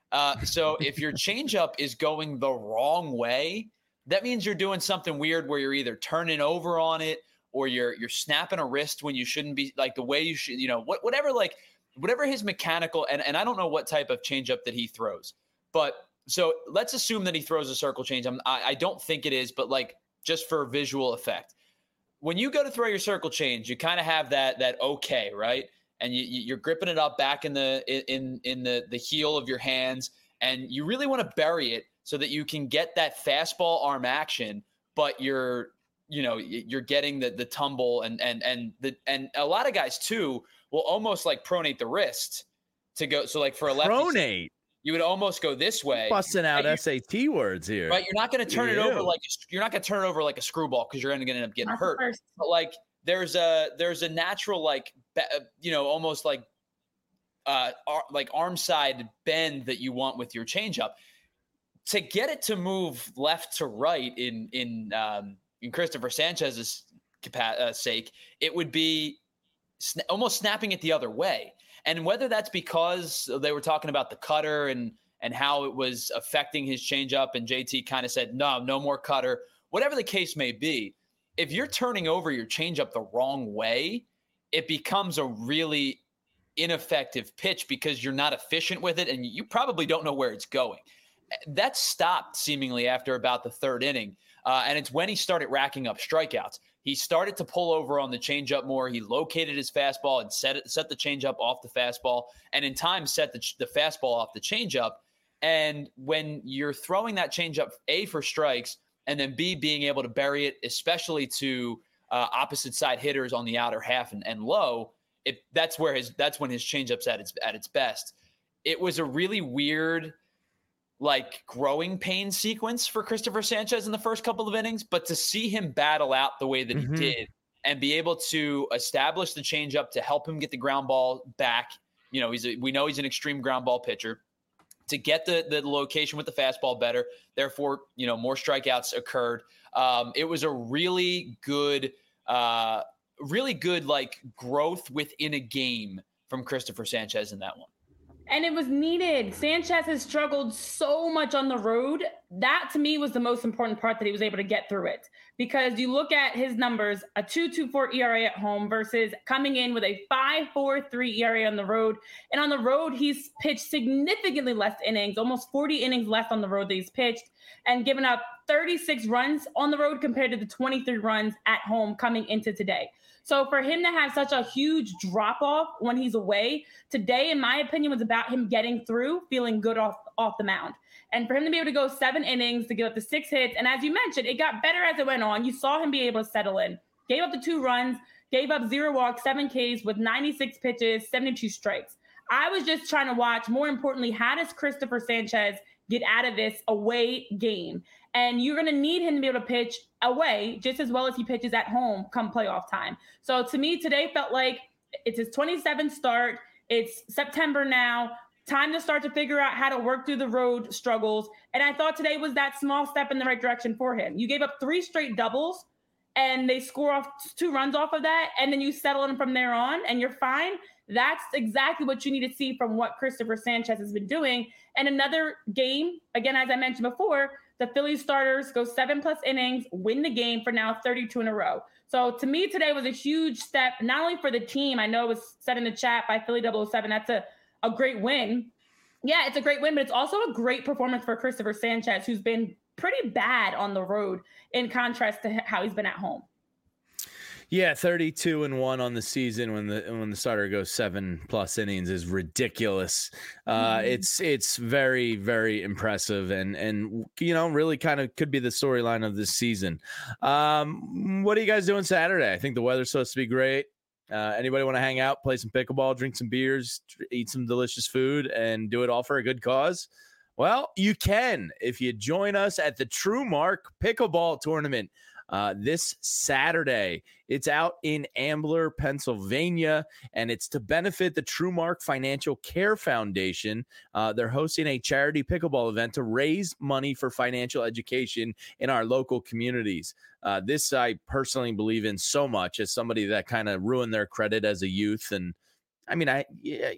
So if your changeup is going the wrong way, that means you're doing something weird where you're either turning over on it or you're snapping a wrist when you shouldn't be, like the way you should, whatever his mechanical, and I don't know what type of changeup that he throws, but so let's assume that he throws a circle change. I don't think it is, but like just for visual effect, when you go to throw your circle change, you kind of have that okay, right? And you're gripping it up back in the heel of your hands, and you really want to bury it so that you can get that fastball arm action, but you're getting the tumble and a lot of guys too will almost like pronate the wrist to go. So like for a lefty, pronate, you would almost go this way. Busting out SAT words here, right? You're not going to turn it over like a screwball because you're going to end up getting hurt. But like there's a natural almost like arm side bend that you want with your changeup to get it to move left to right in Christopher Sanchez's sake. It would be almost snapping it the other way. And whether that's because they were talking about the cutter and how it was affecting his changeup, and JT kind of said, no more cutter, whatever the case may be, if you're turning over your changeup the wrong way, it becomes a really ineffective pitch because you're not efficient with it and you probably don't know where it's going. That stopped seemingly after about the third inning. And it's when he started racking up strikeouts. He started to pull over on the changeup more. He located his fastball and set the changeup off the fastball, and in time set the fastball off the changeup. And when you're throwing that changeup, A, for strikes, and then B, being able to bury it, especially to opposite side hitters on the outer half and low, that's when his changeup's at its best. It was a really weird, like, growing pain sequence for Christopher Sanchez in the first couple of innings, but to see him battle out the way that he did and be able to establish the changeup to help him get the ground ball back, we know he's an extreme ground ball pitcher, to get the location with the fastball better. Therefore, more strikeouts occurred. It was a really good like growth within a game from Christopher Sanchez in that one. And it was needed. Sanchez has struggled so much on the road. That, to me, was the most important part, that he was able to get through it. Because you look at his numbers, a 2.24 ERA at home versus coming in with a 5.43 ERA on the road. And on the road, he's pitched significantly less innings, almost 40 innings less on the road that he's pitched, and given up 36 runs on the road compared to the 23 runs at home coming into today. So for him to have such a huge drop-off when he's away, today, in my opinion, was about him getting through, feeling good off the mound. And for him to be able to go 7 innings, to give up the 6 hits, and as you mentioned, it got better as it went on. You saw him be able to settle in. Gave up the 2 runs, gave up 0 walks, 7 Ks with 96 pitches, 72 strikes. I was just trying to watch, more importantly, how does Christopher Sanchez get out of this away game? And you're going to need him to be able to pitch away just as well as he pitches at home come playoff time. So to me, today felt like it's his 27th start. It's September now. Time to start to figure out how to work through the road struggles. And I thought today was that small step in the right direction for him. You gave up 3 straight doubles, and they score off 2 runs off of that, and then you settle in from there on, and you're fine. That's exactly what you need to see from what Christopher Sanchez has been doing. And another game, again, as I mentioned before, the Phillies starters go 7+ innings, win the game for now 32 in a row. So to me, today was a huge step, not only for the team. I know it was said in the chat by Philly 007, that's a great win. Yeah, it's a great win, but it's also a great performance for Christopher Sanchez, who's been pretty bad on the road in contrast to how he's been at home. Yeah, 32-1 on the season when the starter goes 7+ innings is ridiculous. It's very, very impressive and really kind of could be the storyline of this season. What are you guys doing Saturday? I think the weather's supposed to be great. Anybody want to hang out, play some pickleball, drink some beers, eat some delicious food, and do it all for a good cause? Well, you can if you join us at the True Mark Pickleball Tournament. This Saturday. It's out in Ambler, Pennsylvania, and it's to benefit the TrueMark Financial Care Foundation. They're hosting a charity pickleball event to raise money for financial education in our local communities. This I personally believe in so much as somebody that kind of ruined their credit as a youth and I mean, I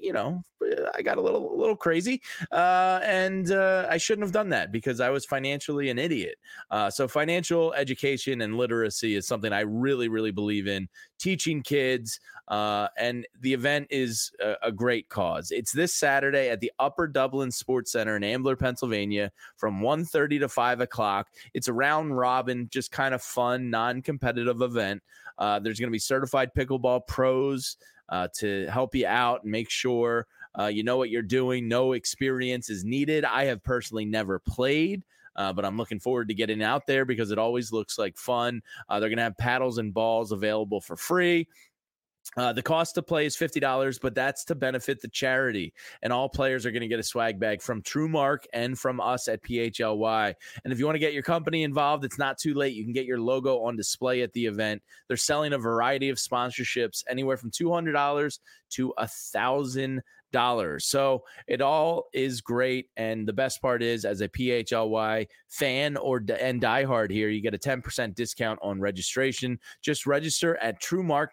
got a little crazy, and I shouldn't have done that because I was financially an idiot. So financial education and literacy is something I really, really believe in teaching kids. And the event is a great cause. It's this Saturday at the Upper Dublin Sports Center in Ambler, Pennsylvania, from 1:30 to 5 o'clock. It's a round robin, just kind of fun, non-competitive event. There's going to be certified pickleball pros to help you out and make sure you know what you're doing. No experience is needed. I have personally never played, but I'm looking forward to getting out there because it always looks like fun. They're going to have paddles and balls available for free. The cost to play is $50, but that's to benefit the charity. And all players are going to get a swag bag from TrueMark and from us at PHLY. And if you want to get your company involved, it's not too late. You can get your logo on display at the event. They're selling a variety of sponsorships, anywhere from $200 to $1,000. So it all is great. And the best part is, as a PHLY fan and diehard here, you get a 10% discount on registration. Just register at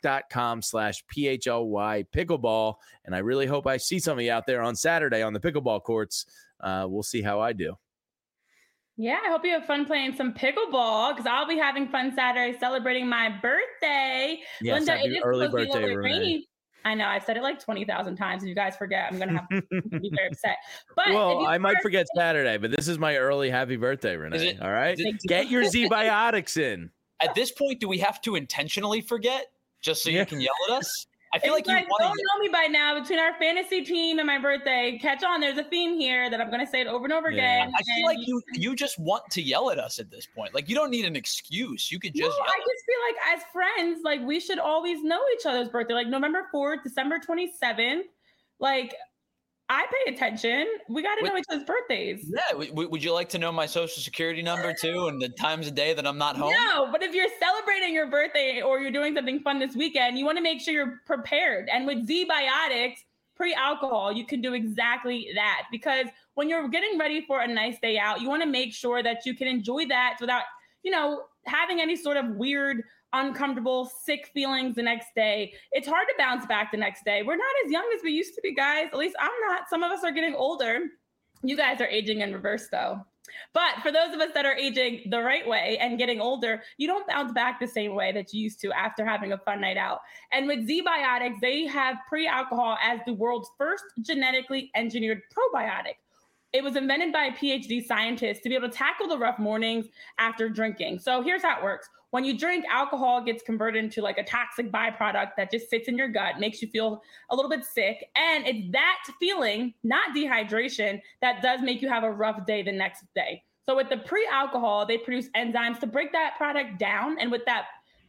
truemark.com/PHLY pickleball. And I really hope I see some of you out there on Saturday on the pickleball courts. We'll see how I do. Yeah, I hope you have fun playing some pickleball because I'll be having fun Saturday celebrating my birthday. Yes, Linda, happy early birthday, Renee. I know I've said it like 20,000 times. If you guys forget, I'm gonna have to be very upset. But well, I might forget Saturday, but this is my early happy birthday, Renee. All right, get your Z-Biotics in. At this point, do we have to intentionally forget just so you can yell at us? I feel like you don't know me by now. Between our fantasy team and my birthday, catch on. There's a theme here that I'm going to say it over and over again. I feel like you just want to yell at us at this point. Like, you don't need an excuse. You could just yell. I just feel like as friends, like, we should always know each other's birthday. Like November 4th, December 27th. Like, I pay attention. We got to know each other's birthdays. Yeah. Would you like to know my social security number too and the times of day that I'm not home? No, but if you're celebrating your birthday or you're doing something fun this weekend, you want to make sure you're prepared. And with Z-Biotics pre-alcohol, you can do exactly that. Because when you're getting ready for a nice day out, you want to make sure that you can enjoy that without, having any sort of weird, uncomfortable, sick feelings the next day. It's hard to bounce back the next day. We're not as young as we used to be, guys. At least I'm not. Some of us are getting older. You guys are aging in reverse, though. But for those of us that are aging the right way and getting older, you don't bounce back the same way that you used to after having a fun night out. And with Z-Biotics, they have pre-alcohol as the world's first genetically engineered probiotic. It was invented by a PhD scientist to be able to tackle the rough mornings after drinking. So here's how it works. When you drink, alcohol gets converted into like a toxic byproduct that just sits in your gut, makes you feel a little bit sick. And it's that feeling, not dehydration, that does make you have a rough day the next day. So with the pre-alcohol, they produce enzymes to break that product down. And with that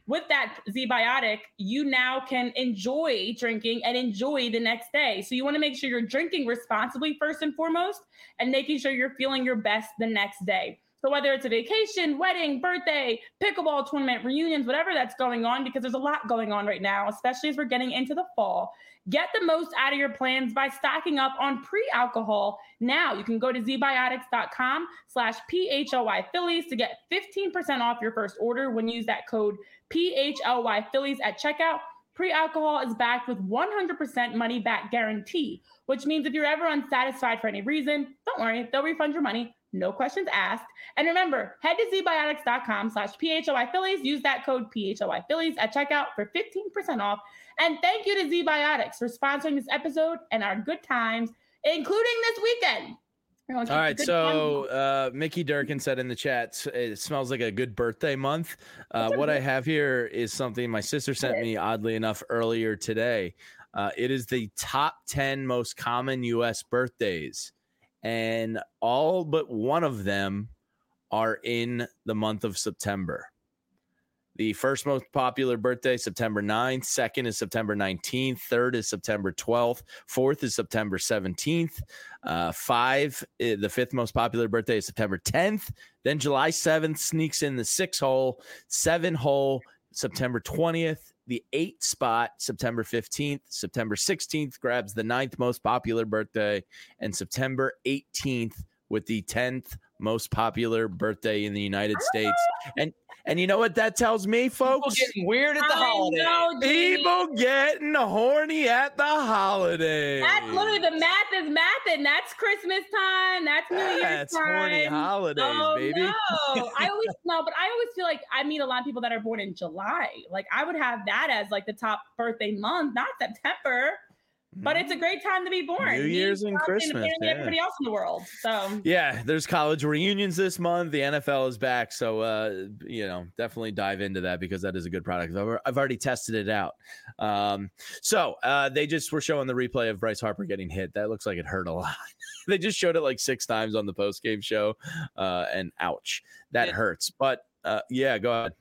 Z-Biotic, you now can enjoy drinking and enjoy the next day. So you want to make sure you're drinking responsibly first and foremost, and making sure you're feeling your best the next day. So whether it's a vacation, wedding, birthday, pickleball tournament, reunions, whatever that's going on, because there's a lot going on right now, especially as we're getting into the fall, get the most out of your plans by stocking up on pre-alcohol now. You can go to zbiotics.com/PHLY Phillies to get 15% off your first order when you use that code PHLY Phillies at checkout. Pre-alcohol is backed with 100% money back guarantee, which means if you're ever unsatisfied for any reason, don't worry, they'll refund your money. No questions asked. And remember, head to zbiotics.com/PHLY Phillies. Use that code PHLY Phillies at checkout for 15% off. And thank you to Z-Biotics for sponsoring this episode and our good times, including this weekend. All right, so Mickey Durkin said in the chat, it smells like a good birthday month. What I have here is something my sister sent me, oddly enough, earlier today. It is the top 10 most common U.S. birthdays, and all but one of them are in the month of September. The first most popular birthday, September 9th. Second is September 19th. Third is September 12th. Fourth is September 17th. The fifth most popular birthday is September 10th. Then July 7th sneaks in the 6 hole. 7 hole, September 20th. The 8 spot, September 15th. September 16th grabs the 9th most popular birthday. And September 18th with the 10th most popular birthday in the United States. And you know what that tells me, folks? People getting weird at the holidays. People getting horny at the holidays. That's literally the math is mathing. That's Christmas time. That's New Year's time. That's horny holidays, baby. No. I always feel like I meet a lot of people that are born in July. Like I would have that as like the top birthday month, not September. But it's a great time to be born. New Year's and Christmas. Yeah. Everybody else in the world. So yeah, there's college reunions this month. The NFL is back, so definitely dive into that because that is a good product. I've already tested it out. They just were showing the replay of Bryce Harper getting hit. That looks like it hurt a lot. They just showed it like 6 times on the post-game show, and ouch, that hurts. But yeah, go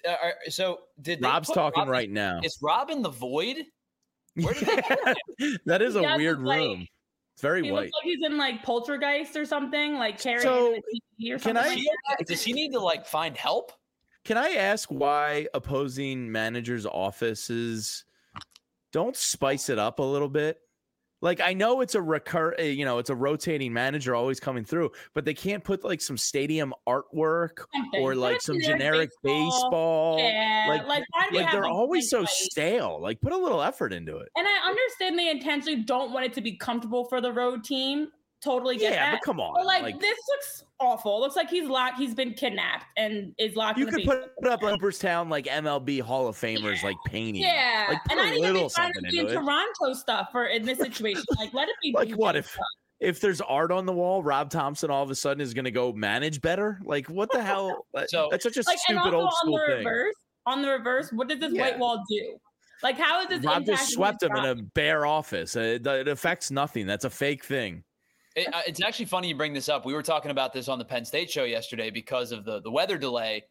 ahead. Rob's talking right now. Is Rob in the void? Where did they put him? That is a weird room. It's very white. Looks like he's in like Poltergeist or something, like carrying the TV or something. Does he need to like find help? Can I ask why opposing managers' offices don't spice it up a little bit? Like, I know it's it's a rotating manager always coming through, but they can't put like some stadium artwork or like some generic baseball. Yeah, like they're always so stale. Like, put a little effort into it. And I understand they intentionally don't want it to be comfortable for the road team. Totally get that. Yeah, but come on. But like this looks awful. It looks like he's been kidnapped and is locked in the basement. You could put up Cooperstown like MLB Hall of Famers like painting. Yeah. Like, and I didn't even find it in Toronto stuff in this situation. Like let it be. Like what if there's art on the wall, Rob Thompson all of a sudden is going to go manage better? Like what the hell? So that's such a stupid old school thing. On the reverse, what does this white wall do? Like how is this? Rob just swept him in a bare office. It affects nothing. That's a fake thing. It's actually funny you bring this up. We were talking about this on the Penn State show yesterday because of the weather delay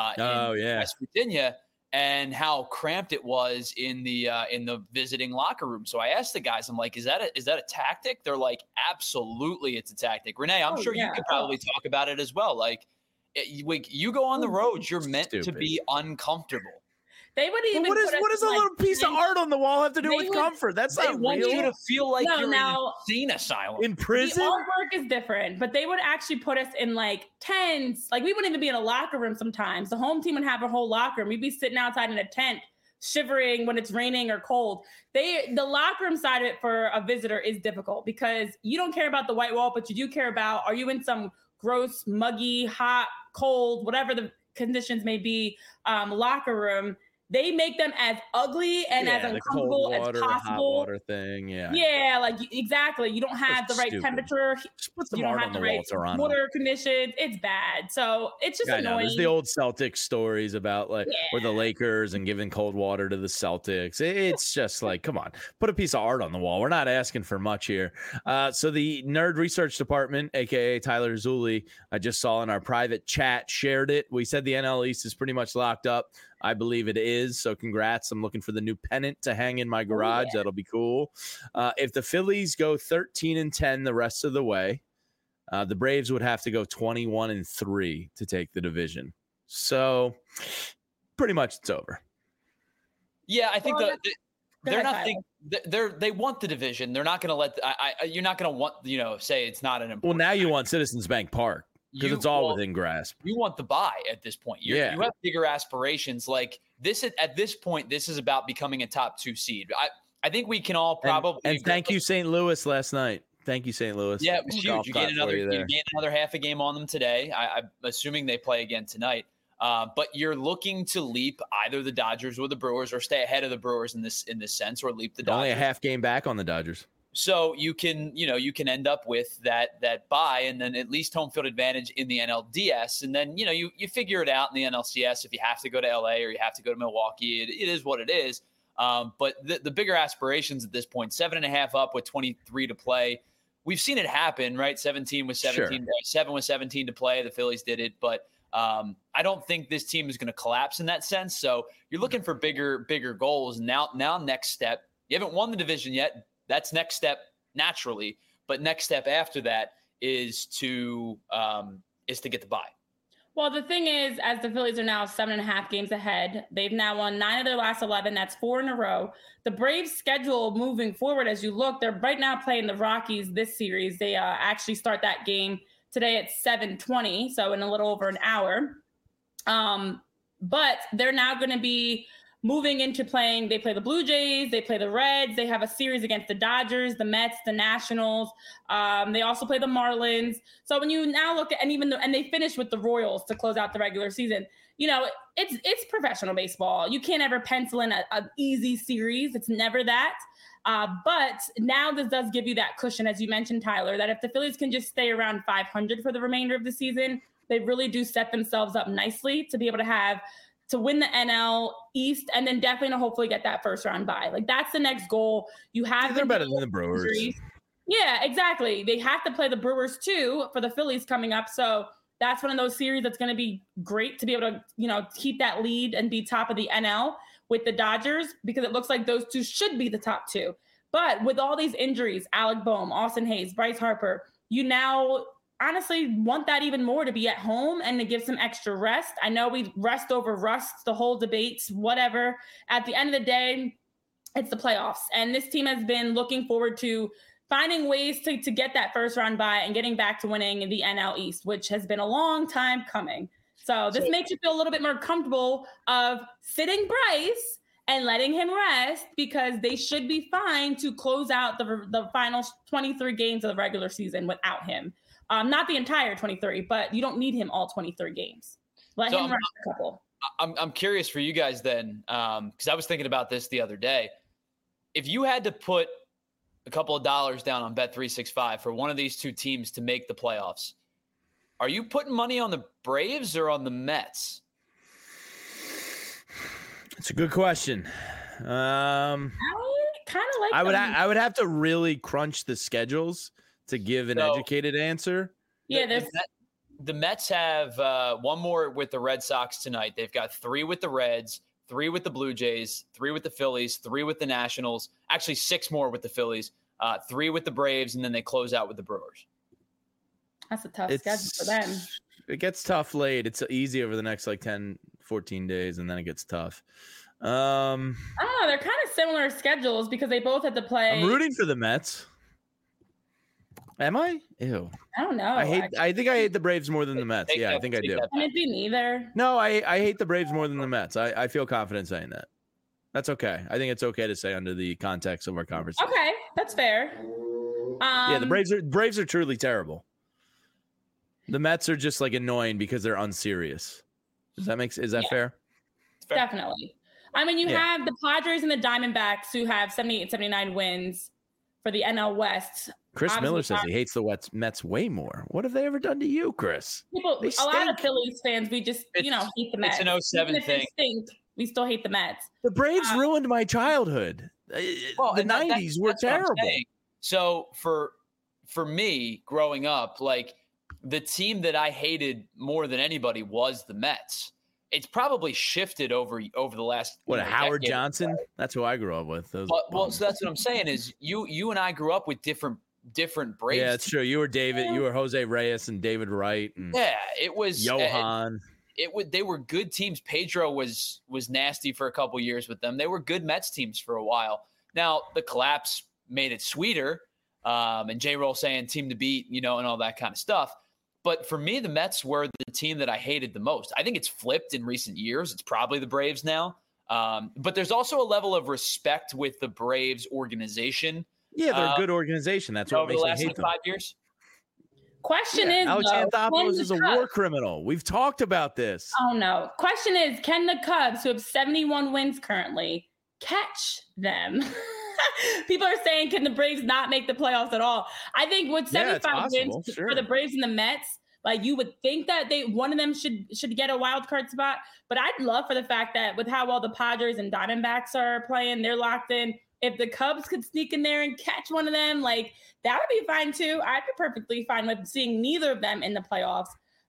in West Virginia and how cramped it was in the visiting locker room. So I asked the guys, I'm like, is that a tactic? They're like, absolutely, it's a tactic. Renee, I'm sure you could probably talk about it as well. Like, you go on the road, you're meant to be uncomfortable. They would even. What does a little piece of art on the wall have to do with comfort? That's not real. They want you to feel like you're in an insane asylum. In prison? The artwork is different, but they would actually put us in like tents. Like we wouldn't even be in a locker room sometimes. The home team would have a whole locker room. We'd be sitting outside in a tent, shivering when it's raining or cold. The locker room side of it for a visitor is difficult because you don't care about the white wall, but you do care about, are you in some gross, muggy, hot, cold, whatever the conditions may be, locker room. They make them as ugly and as uncomfortable as possible. Hot water thing, yeah, like exactly. You don't have the right temperature. You don't have the right water conditions. It's bad. So it's just annoying. There's the old Celtics stories about where the Lakers and giving cold water to the Celtics. It's just like, come on, put a piece of art on the wall. We're not asking for much here. So the Nerd Research Department, aka Tyler Zulli, I just saw in our private chat, shared it. We said the NL East is pretty much locked up. I believe it is. So congrats. I'm looking for the new pennant to hang in my garage. That'll be cool. If the Phillies go 13-10 the rest of the way, the Braves would have to go 21-3 to take the division. So pretty much it's over. Yeah, I think they want the division. They're not going to let you're not going to want, say it's not an important. Well, now you want Citizens Bank Park. Because it's all within grasp. You want the bye at this point. You have bigger aspirations. Like this at this point, this is about becoming a top 2 seed. I think we can all probably. And thank you, St. Louis, last night. Thank you, St. Louis. Yeah, it was huge. You gained another half a game on them today. I'm assuming they play again tonight. But you're looking to leap either the Dodgers or the Brewers, or stay ahead of the Brewers in this sense, or leap the Dodgers. Only a half game back on the Dodgers. So you can end up with that bye, and then at least home field advantage in the NLDS, and then you figure it out in the NLCS if you have to go to LA or you have to go to Milwaukee. It is what it is. But the bigger aspirations at this point, 7.5 up with 23 to play. We've seen it happen, right? 17 with 17, 7 with 17 to play. The Phillies did it, but I don't think this team is going to collapse in that sense. So you're looking for bigger goals. Now next step. You haven't won the division yet. That's next step naturally, but next step after that is to get the bye. Well, the thing is, as the Phillies are now 7.5 games ahead, they've now won 9 of their last 11. That's 4 in a row. The Braves' schedule moving forward, as you look, they're right now playing the Rockies this series. They actually start that game today at 7:20, so in a little over an hour. but they're now going to be moving into playing. They play the Blue Jays, they play the Reds, they have a series against the Dodgers, the Mets, the Nationals. They also play the Marlins. So when you now look at, and they finish with the Royals to close out the regular season, it's professional baseball. You can't ever pencil in an easy series. It's never that. But now this does give you that cushion, as you mentioned, Tyler, that if the Phillies can just stay around 500 for the remainder of the season, they really do set themselves up nicely to be able to win the NL East, and then definitely to hopefully get that first round bye. Like, that's the next goal. They're better than the Brewers. Injuries. Yeah, exactly. They have to play the Brewers too for the Phillies coming up. So that's one of those series that's going to be great to be able to, keep that lead and be top of the NL with the Dodgers, because it looks like those two should be the top two. But with all these injuries, Alec Bohm, Austin Hayes, Bryce Harper, you now honestly want that even more, to be at home and to give some extra rest. I know we rest over rust, the whole debate, whatever. At the end of the day, it's the playoffs. And this team has been looking forward to finding ways to get that first round bye and getting back to winning the NL East, which has been a long time coming. So this makes you feel a little bit more comfortable of sitting Bryce and letting him rest, because they should be fine to close out the final 23 games of the regular season without him. Not the entire 23, but you don't need him all 23 games. Let him rest a couple. I'm curious for you guys then, because I was thinking about this the other day. If you had to put a couple of dollars down on Bet365 for one of these two teams to make the playoffs, are you putting money on the Braves or on the Mets? It's a good question. I kind of like. I would have to really crunch the schedules to give an educated answer. Yeah, the Mets have one more with the Red Sox tonight. They've got 3 with the Reds, 3 with the Blue Jays, 3 with the Phillies, 3 with the Nationals. Actually, 6 more with the Phillies, 3 with the Braves, and then they close out with the Brewers. That's a tough schedule for them. It gets tough late. It's easy over the next 10, 14 days, and then it gets tough. I don't know. They're kind of similar schedules because they both had to play. I'm rooting for the Mets. Am I? Ew. I don't know. I think I hate the Braves more than the Mets. I think I do. Can it be neither? No, I hate the Braves more than the Mets. I feel confident saying that. That's okay. I think it's okay to say under the context of our conversation. Okay, that's fair. The Braves are truly terrible. The Mets are just annoying because they're unserious. Is that fair? Definitely. I mean, you have the Padres and the Diamondbacks who have 78, 79 wins for the NL West. Chris Miller says he hates the Mets way more. What have they ever done to you, Chris? A lot of Phillies fans, we just hate the Mets. It's an 07 thing. We still hate the Mets. The Braves ruined my childhood. The 90s were terrible. So for me growing up, the team that I hated more than anybody was the Mets. It's probably shifted over the last Howard Johnson. That's who I grew up with. So that's what I'm saying is you and I grew up with different Braves. Yeah, it's true. You were David. You were Jose Reyes and David Wright. And it was Johan. They were good teams. Pedro was nasty for a couple years with them. They were good Mets teams for a while. Now the collapse made it sweeter, and J-Roll saying team to beat, and all that kind of stuff. But for me, the Mets were the team that I hated the most. I think it's flipped in recent years. It's probably the Braves now. But there's also a level of respect with the Braves organization. Yeah, they're a good organization. That's what makes me hate them. 5 years. Question is, Alex Anthopoulos is a war criminal. We've talked about this. Oh, no. Question is, can the Cubs, who have 71 wins currently, catch them? People are saying, can the Braves not make the playoffs at all? I think with 75 wins for the Braves and the Mets, you would think that one of them should get a wild card spot. But I'd love for the fact that with how well the Padres and Diamondbacks are playing, they're locked in. If the Cubs could sneak in there and catch one of them, that would be fine too. I'd be perfectly fine with seeing neither of them in the playoffs.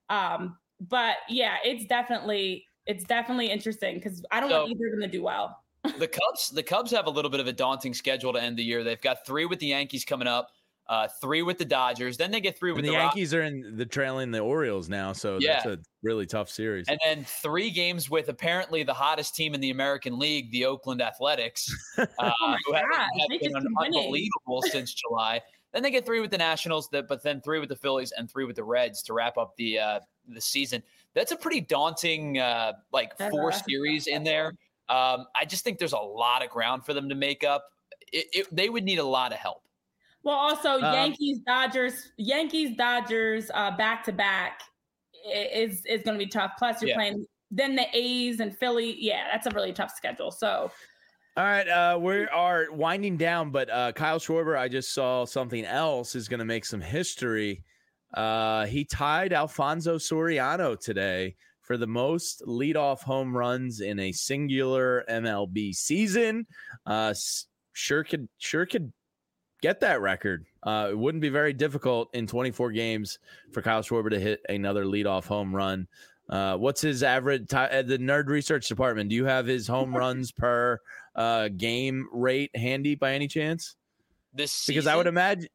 But yeah, it's definitely interesting because I don't want either of them to do well. The Cubs have a little bit of a daunting schedule to end the year. They've got 3 with the Yankees coming up, 3 with the Dodgers. Then they get 3 with the Yankees are in the trailing the Orioles now, so that's a really tough series. And then 3 games with apparently the hottest team in the American League, the Oakland Athletics, who have been unbelievable since July. Then they get 3 with the Nationals, but then 3 with the Phillies and 3 with the Reds to wrap up the the season. That's a pretty daunting, four series in there. I just think there's a lot of ground for them to make up. They would need a lot of help. Well, also Yankees, Dodgers, back to back is going to be tough. Plus, you're playing then the A's and Philly. Yeah, that's a really tough schedule. So, all right, we are winding down, but Kyle Schwarber, I just saw something else is going to make some history. He tied Alfonso Soriano today for the most leadoff home runs in a singular MLB season. Sure could get that record. It wouldn't be very difficult in 24 games for Kyle Schwarber to hit another leadoff home run. What's his average? The Nerd Research Department, do you have his home runs per game rate handy by any chance? This season? Because I would imagine,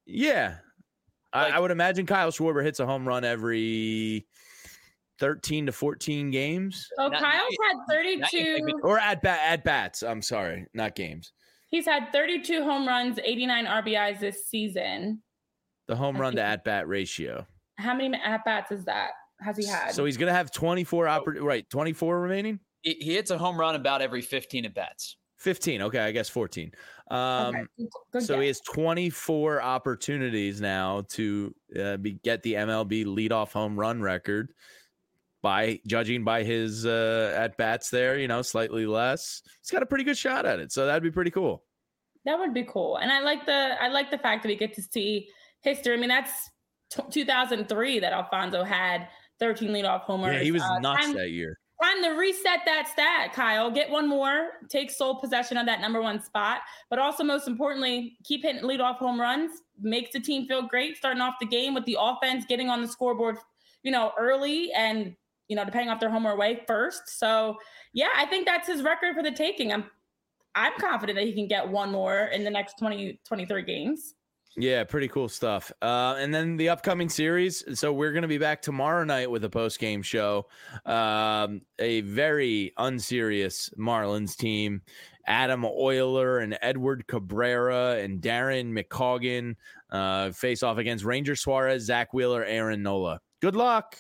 I would imagine Kyle Schwarber hits a home run every 13 to 14 games. So Kyle's had 32 or at bats. I'm sorry, not games. He's had 32 home runs, 89 RBIs this season. The home run to at bat ratio. How many at bats is that? Has he had? So he's going to have 24 24 remaining. He hits a home run about every 15 at bats. 15. Okay, I guess 14. So he has 24 opportunities now to get the MLB leadoff home run record. By judging by his at bats there, slightly less. He's got a pretty good shot at it, so that'd be pretty cool. That would be cool, and I like the fact that we get to see history. I mean, that's 2003 that Alfonso had 13 leadoff homers. Yeah, he was nuts that year. Time to reset that stat, Kyle. Get one more, take sole possession of that number one spot, but also most importantly, keep hitting leadoff home runs. Makes the team feel great, starting off the game with the offense getting on the scoreboard, early and. Depending off their home or away first. So, yeah, I think that's his record for the taking. I'm confident that he can get one more in the next 23 games. Yeah, pretty cool stuff. And then the upcoming series. So we're going to be back tomorrow night with a post-game show. A very unserious Marlins team. Adam Euler and Edward Cabrera and Darren McCaughan face off against Ranger Suarez, Zach Wheeler, Aaron Nola. Good luck.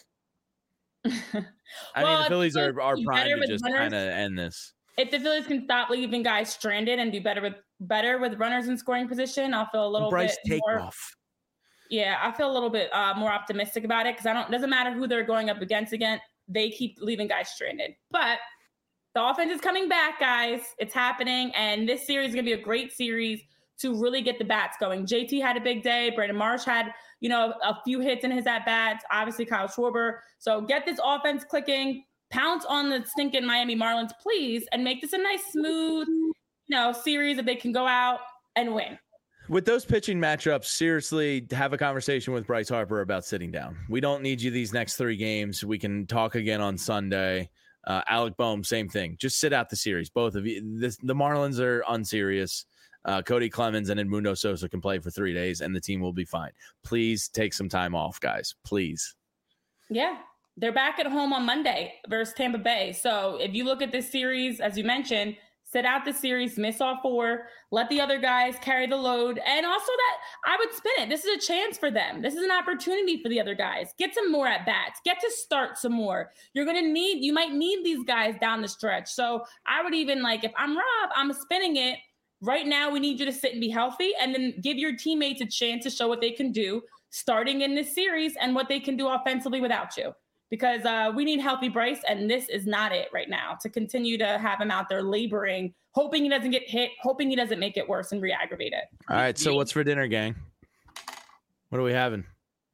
I mean, the Phillies are primed to just kind of end this. If the Phillies can stop leaving guys stranded and do better with runners in scoring position, I'll feel a little bit more. Yeah, I feel a little bit more optimistic about it because it doesn't matter who they're going up against. They keep leaving guys stranded. But the offense is coming back, guys. It's happening, and this series is going to be a great series to really get the bats going. JT had a big day. Brandon Marsh had, a few hits in his at-bats. Obviously, Kyle Schwarber. So get this offense clicking. Pounce on the stinking Miami Marlins, please, and make this a nice, smooth, series that they can go out and win. With those pitching matchups, seriously, have a conversation with Bryce Harper about sitting down. We don't need you these next 3 games. We can talk again on Sunday. Alec Boehm, same thing. Just sit out the series, both of you. The Marlins are unserious. Cody Clemens and Edmundo Sosa can play for 3 days, and the team will be fine. Please take some time off, guys. Please. Yeah. They're back at home on Monday versus Tampa Bay. So if you look at this series, as you mentioned, sit out the series, miss all 4, let the other guys carry the load. And also that I would spin it. This is a chance for them. This is an opportunity for the other guys. Get some more at bats. Get to start some more. You might need these guys down the stretch. So I would even if I'm Rob, I'm spinning it. Right now, we need you to sit and be healthy and then give your teammates a chance to show what they can do starting in this series and what they can do offensively without you. Because we need healthy Bryce, and this is not it right now to continue to have him out there laboring, hoping he doesn't get hit, hoping he doesn't make it worse and re-aggravate it. All right, so what's for dinner, gang? What are we having?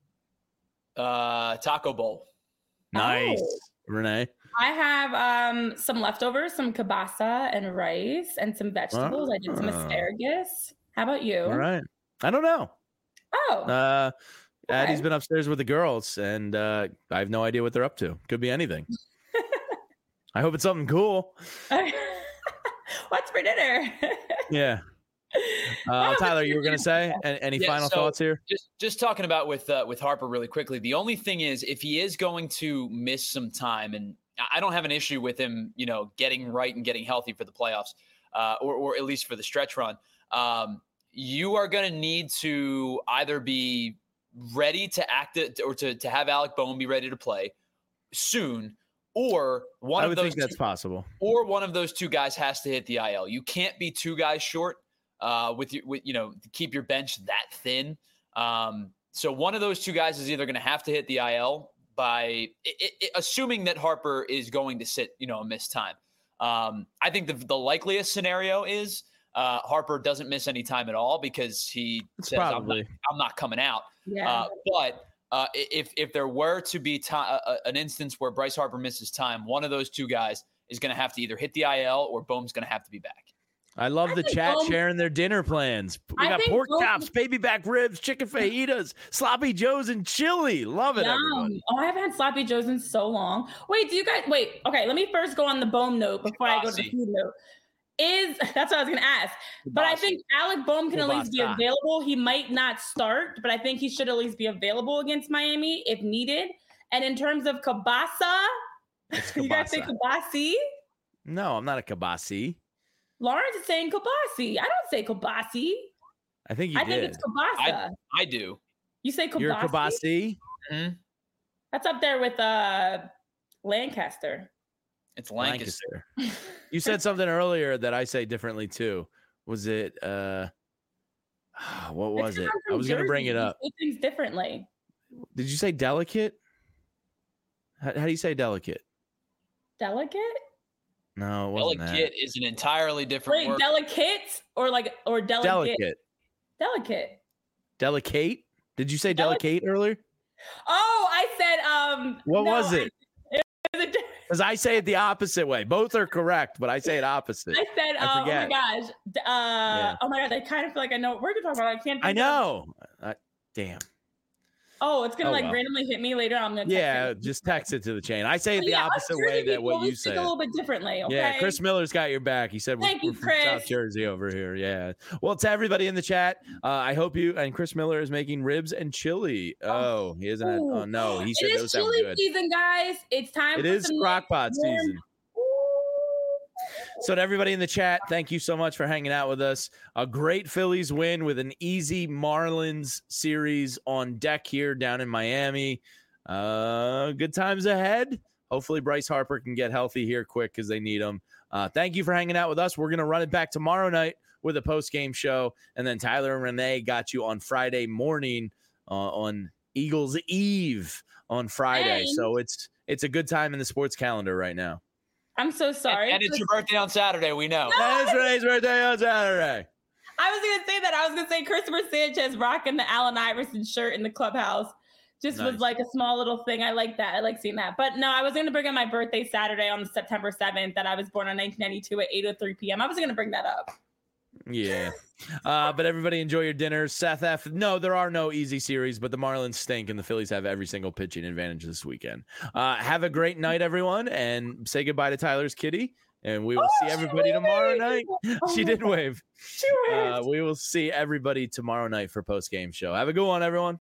Taco bowl. Nice. Oh. Renee? I have some leftovers, some kielbasa and rice and some vegetables. I did some asparagus. How about you? All right. I don't know. Oh. Addie's been upstairs with the girls, and I have no idea what they're up to. Could be anything. I hope it's something cool. What's for dinner? Yeah. Tyler, you were going to say any final thoughts here? Just talking about with Harper really quickly. The only thing is, if he is going to miss some time, and I don't have an issue with him, getting right and getting healthy for the playoffs, or at least for the stretch run. You are going to need to either be ready to act it or to have Alec Bohm be ready to play soon, or I would think that's possible. Or one of those two guys has to hit the IL. You can't be two guys short with keep your bench that thin. So one of those two guys is either going to have to hit the IL by assuming that Harper is going to sit, a missed time. I think the likeliest scenario is Harper doesn't miss any time at all because he says, I'm not coming out. Yeah. But if there were to be an instance where Bryce Harper misses time, one of those two guys is going to have to either hit the IL or Bohm's going to have to be back. I love the chat sharing their dinner plans. We got pork chops, baby back ribs, chicken fajitas, sloppy joes, and chili. Love it, everybody. Oh, I haven't had sloppy joes in so long. Wait, okay, let me first go on the Bohm note before I go to the food note. That's what I was going to ask. But I think Alec Bohm can at least be available. He might not start, but I think he should at least be available against Miami if needed. And in terms of Kabasa, you guys say Kabasi? No, I'm not a Kabasi. Lawrence is saying Kabasi. I don't say Kabasi. I think you did. I think it's Kabasa. I do. You say Kabasi? You're Kabasi? Mm-hmm. That's up there with Lancaster. It's Lancaster. You said something earlier that I say differently too. Was it what was it? I was going to bring it up. You say things differently. Did you say delicate? How do you say delicate? Delicate? No, it wasn't delicate is an entirely different word. Delicate or delicate? Delicate. Delicate? Did you say delicate earlier? Oh, I said What was it? Because I say it the opposite way. Both are correct, but I say it opposite. I said, oh my gosh. Oh my God, I kind of feel like I know what we're talking about. I can't. I know. Damn. Oh, it's gonna randomly hit me later. I'm gonna just text it to the chain. I say it the opposite way that what you say. A little bit differently. Okay? Yeah, Chris Miller's got your back. He said we're from South Jersey over here. Yeah. Well, to everybody in the chat, I hope you and Chris Miller is making ribs and chili. Oh, he isn't. Oh no, he said those sound good. It is chili season, guys. It's time. It is crockpot season. So to everybody in the chat, thank you so much for hanging out with us. A great Phillies win with an easy Marlins series on deck here down in Miami. Good times ahead. Hopefully Bryce Harper can get healthy here quick because they need him. Thank you for hanging out with us. We're going to run it back tomorrow night with a post-game show. And then Tyler and Renee got you on Friday morning on Eagles Eve on Friday. So it's a good time in the sports calendar right now. I'm so sorry. And it's your birthday on Saturday, we know. It's Renee's birthday on Saturday. I was going to say that. I was going to say Christopher Sanchez rocking the Allen Iverson shirt in the clubhouse was like a small little thing. I like that. I like seeing that. But no, I was going to bring up my birthday Saturday on September 7th that I was born in 1992 at 8:03 p.m. I was going to bring that up. Yeah. But everybody enjoy your dinner. Seth F. No, there are no easy series, but the Marlins stink and the Phillies have every single pitching advantage this weekend. Have a great night, everyone, and say goodbye to Tyler's kitty. And we will see everybody tomorrow night. She did wave. She waved. We will see everybody tomorrow night for post-game show. Have a good one, everyone.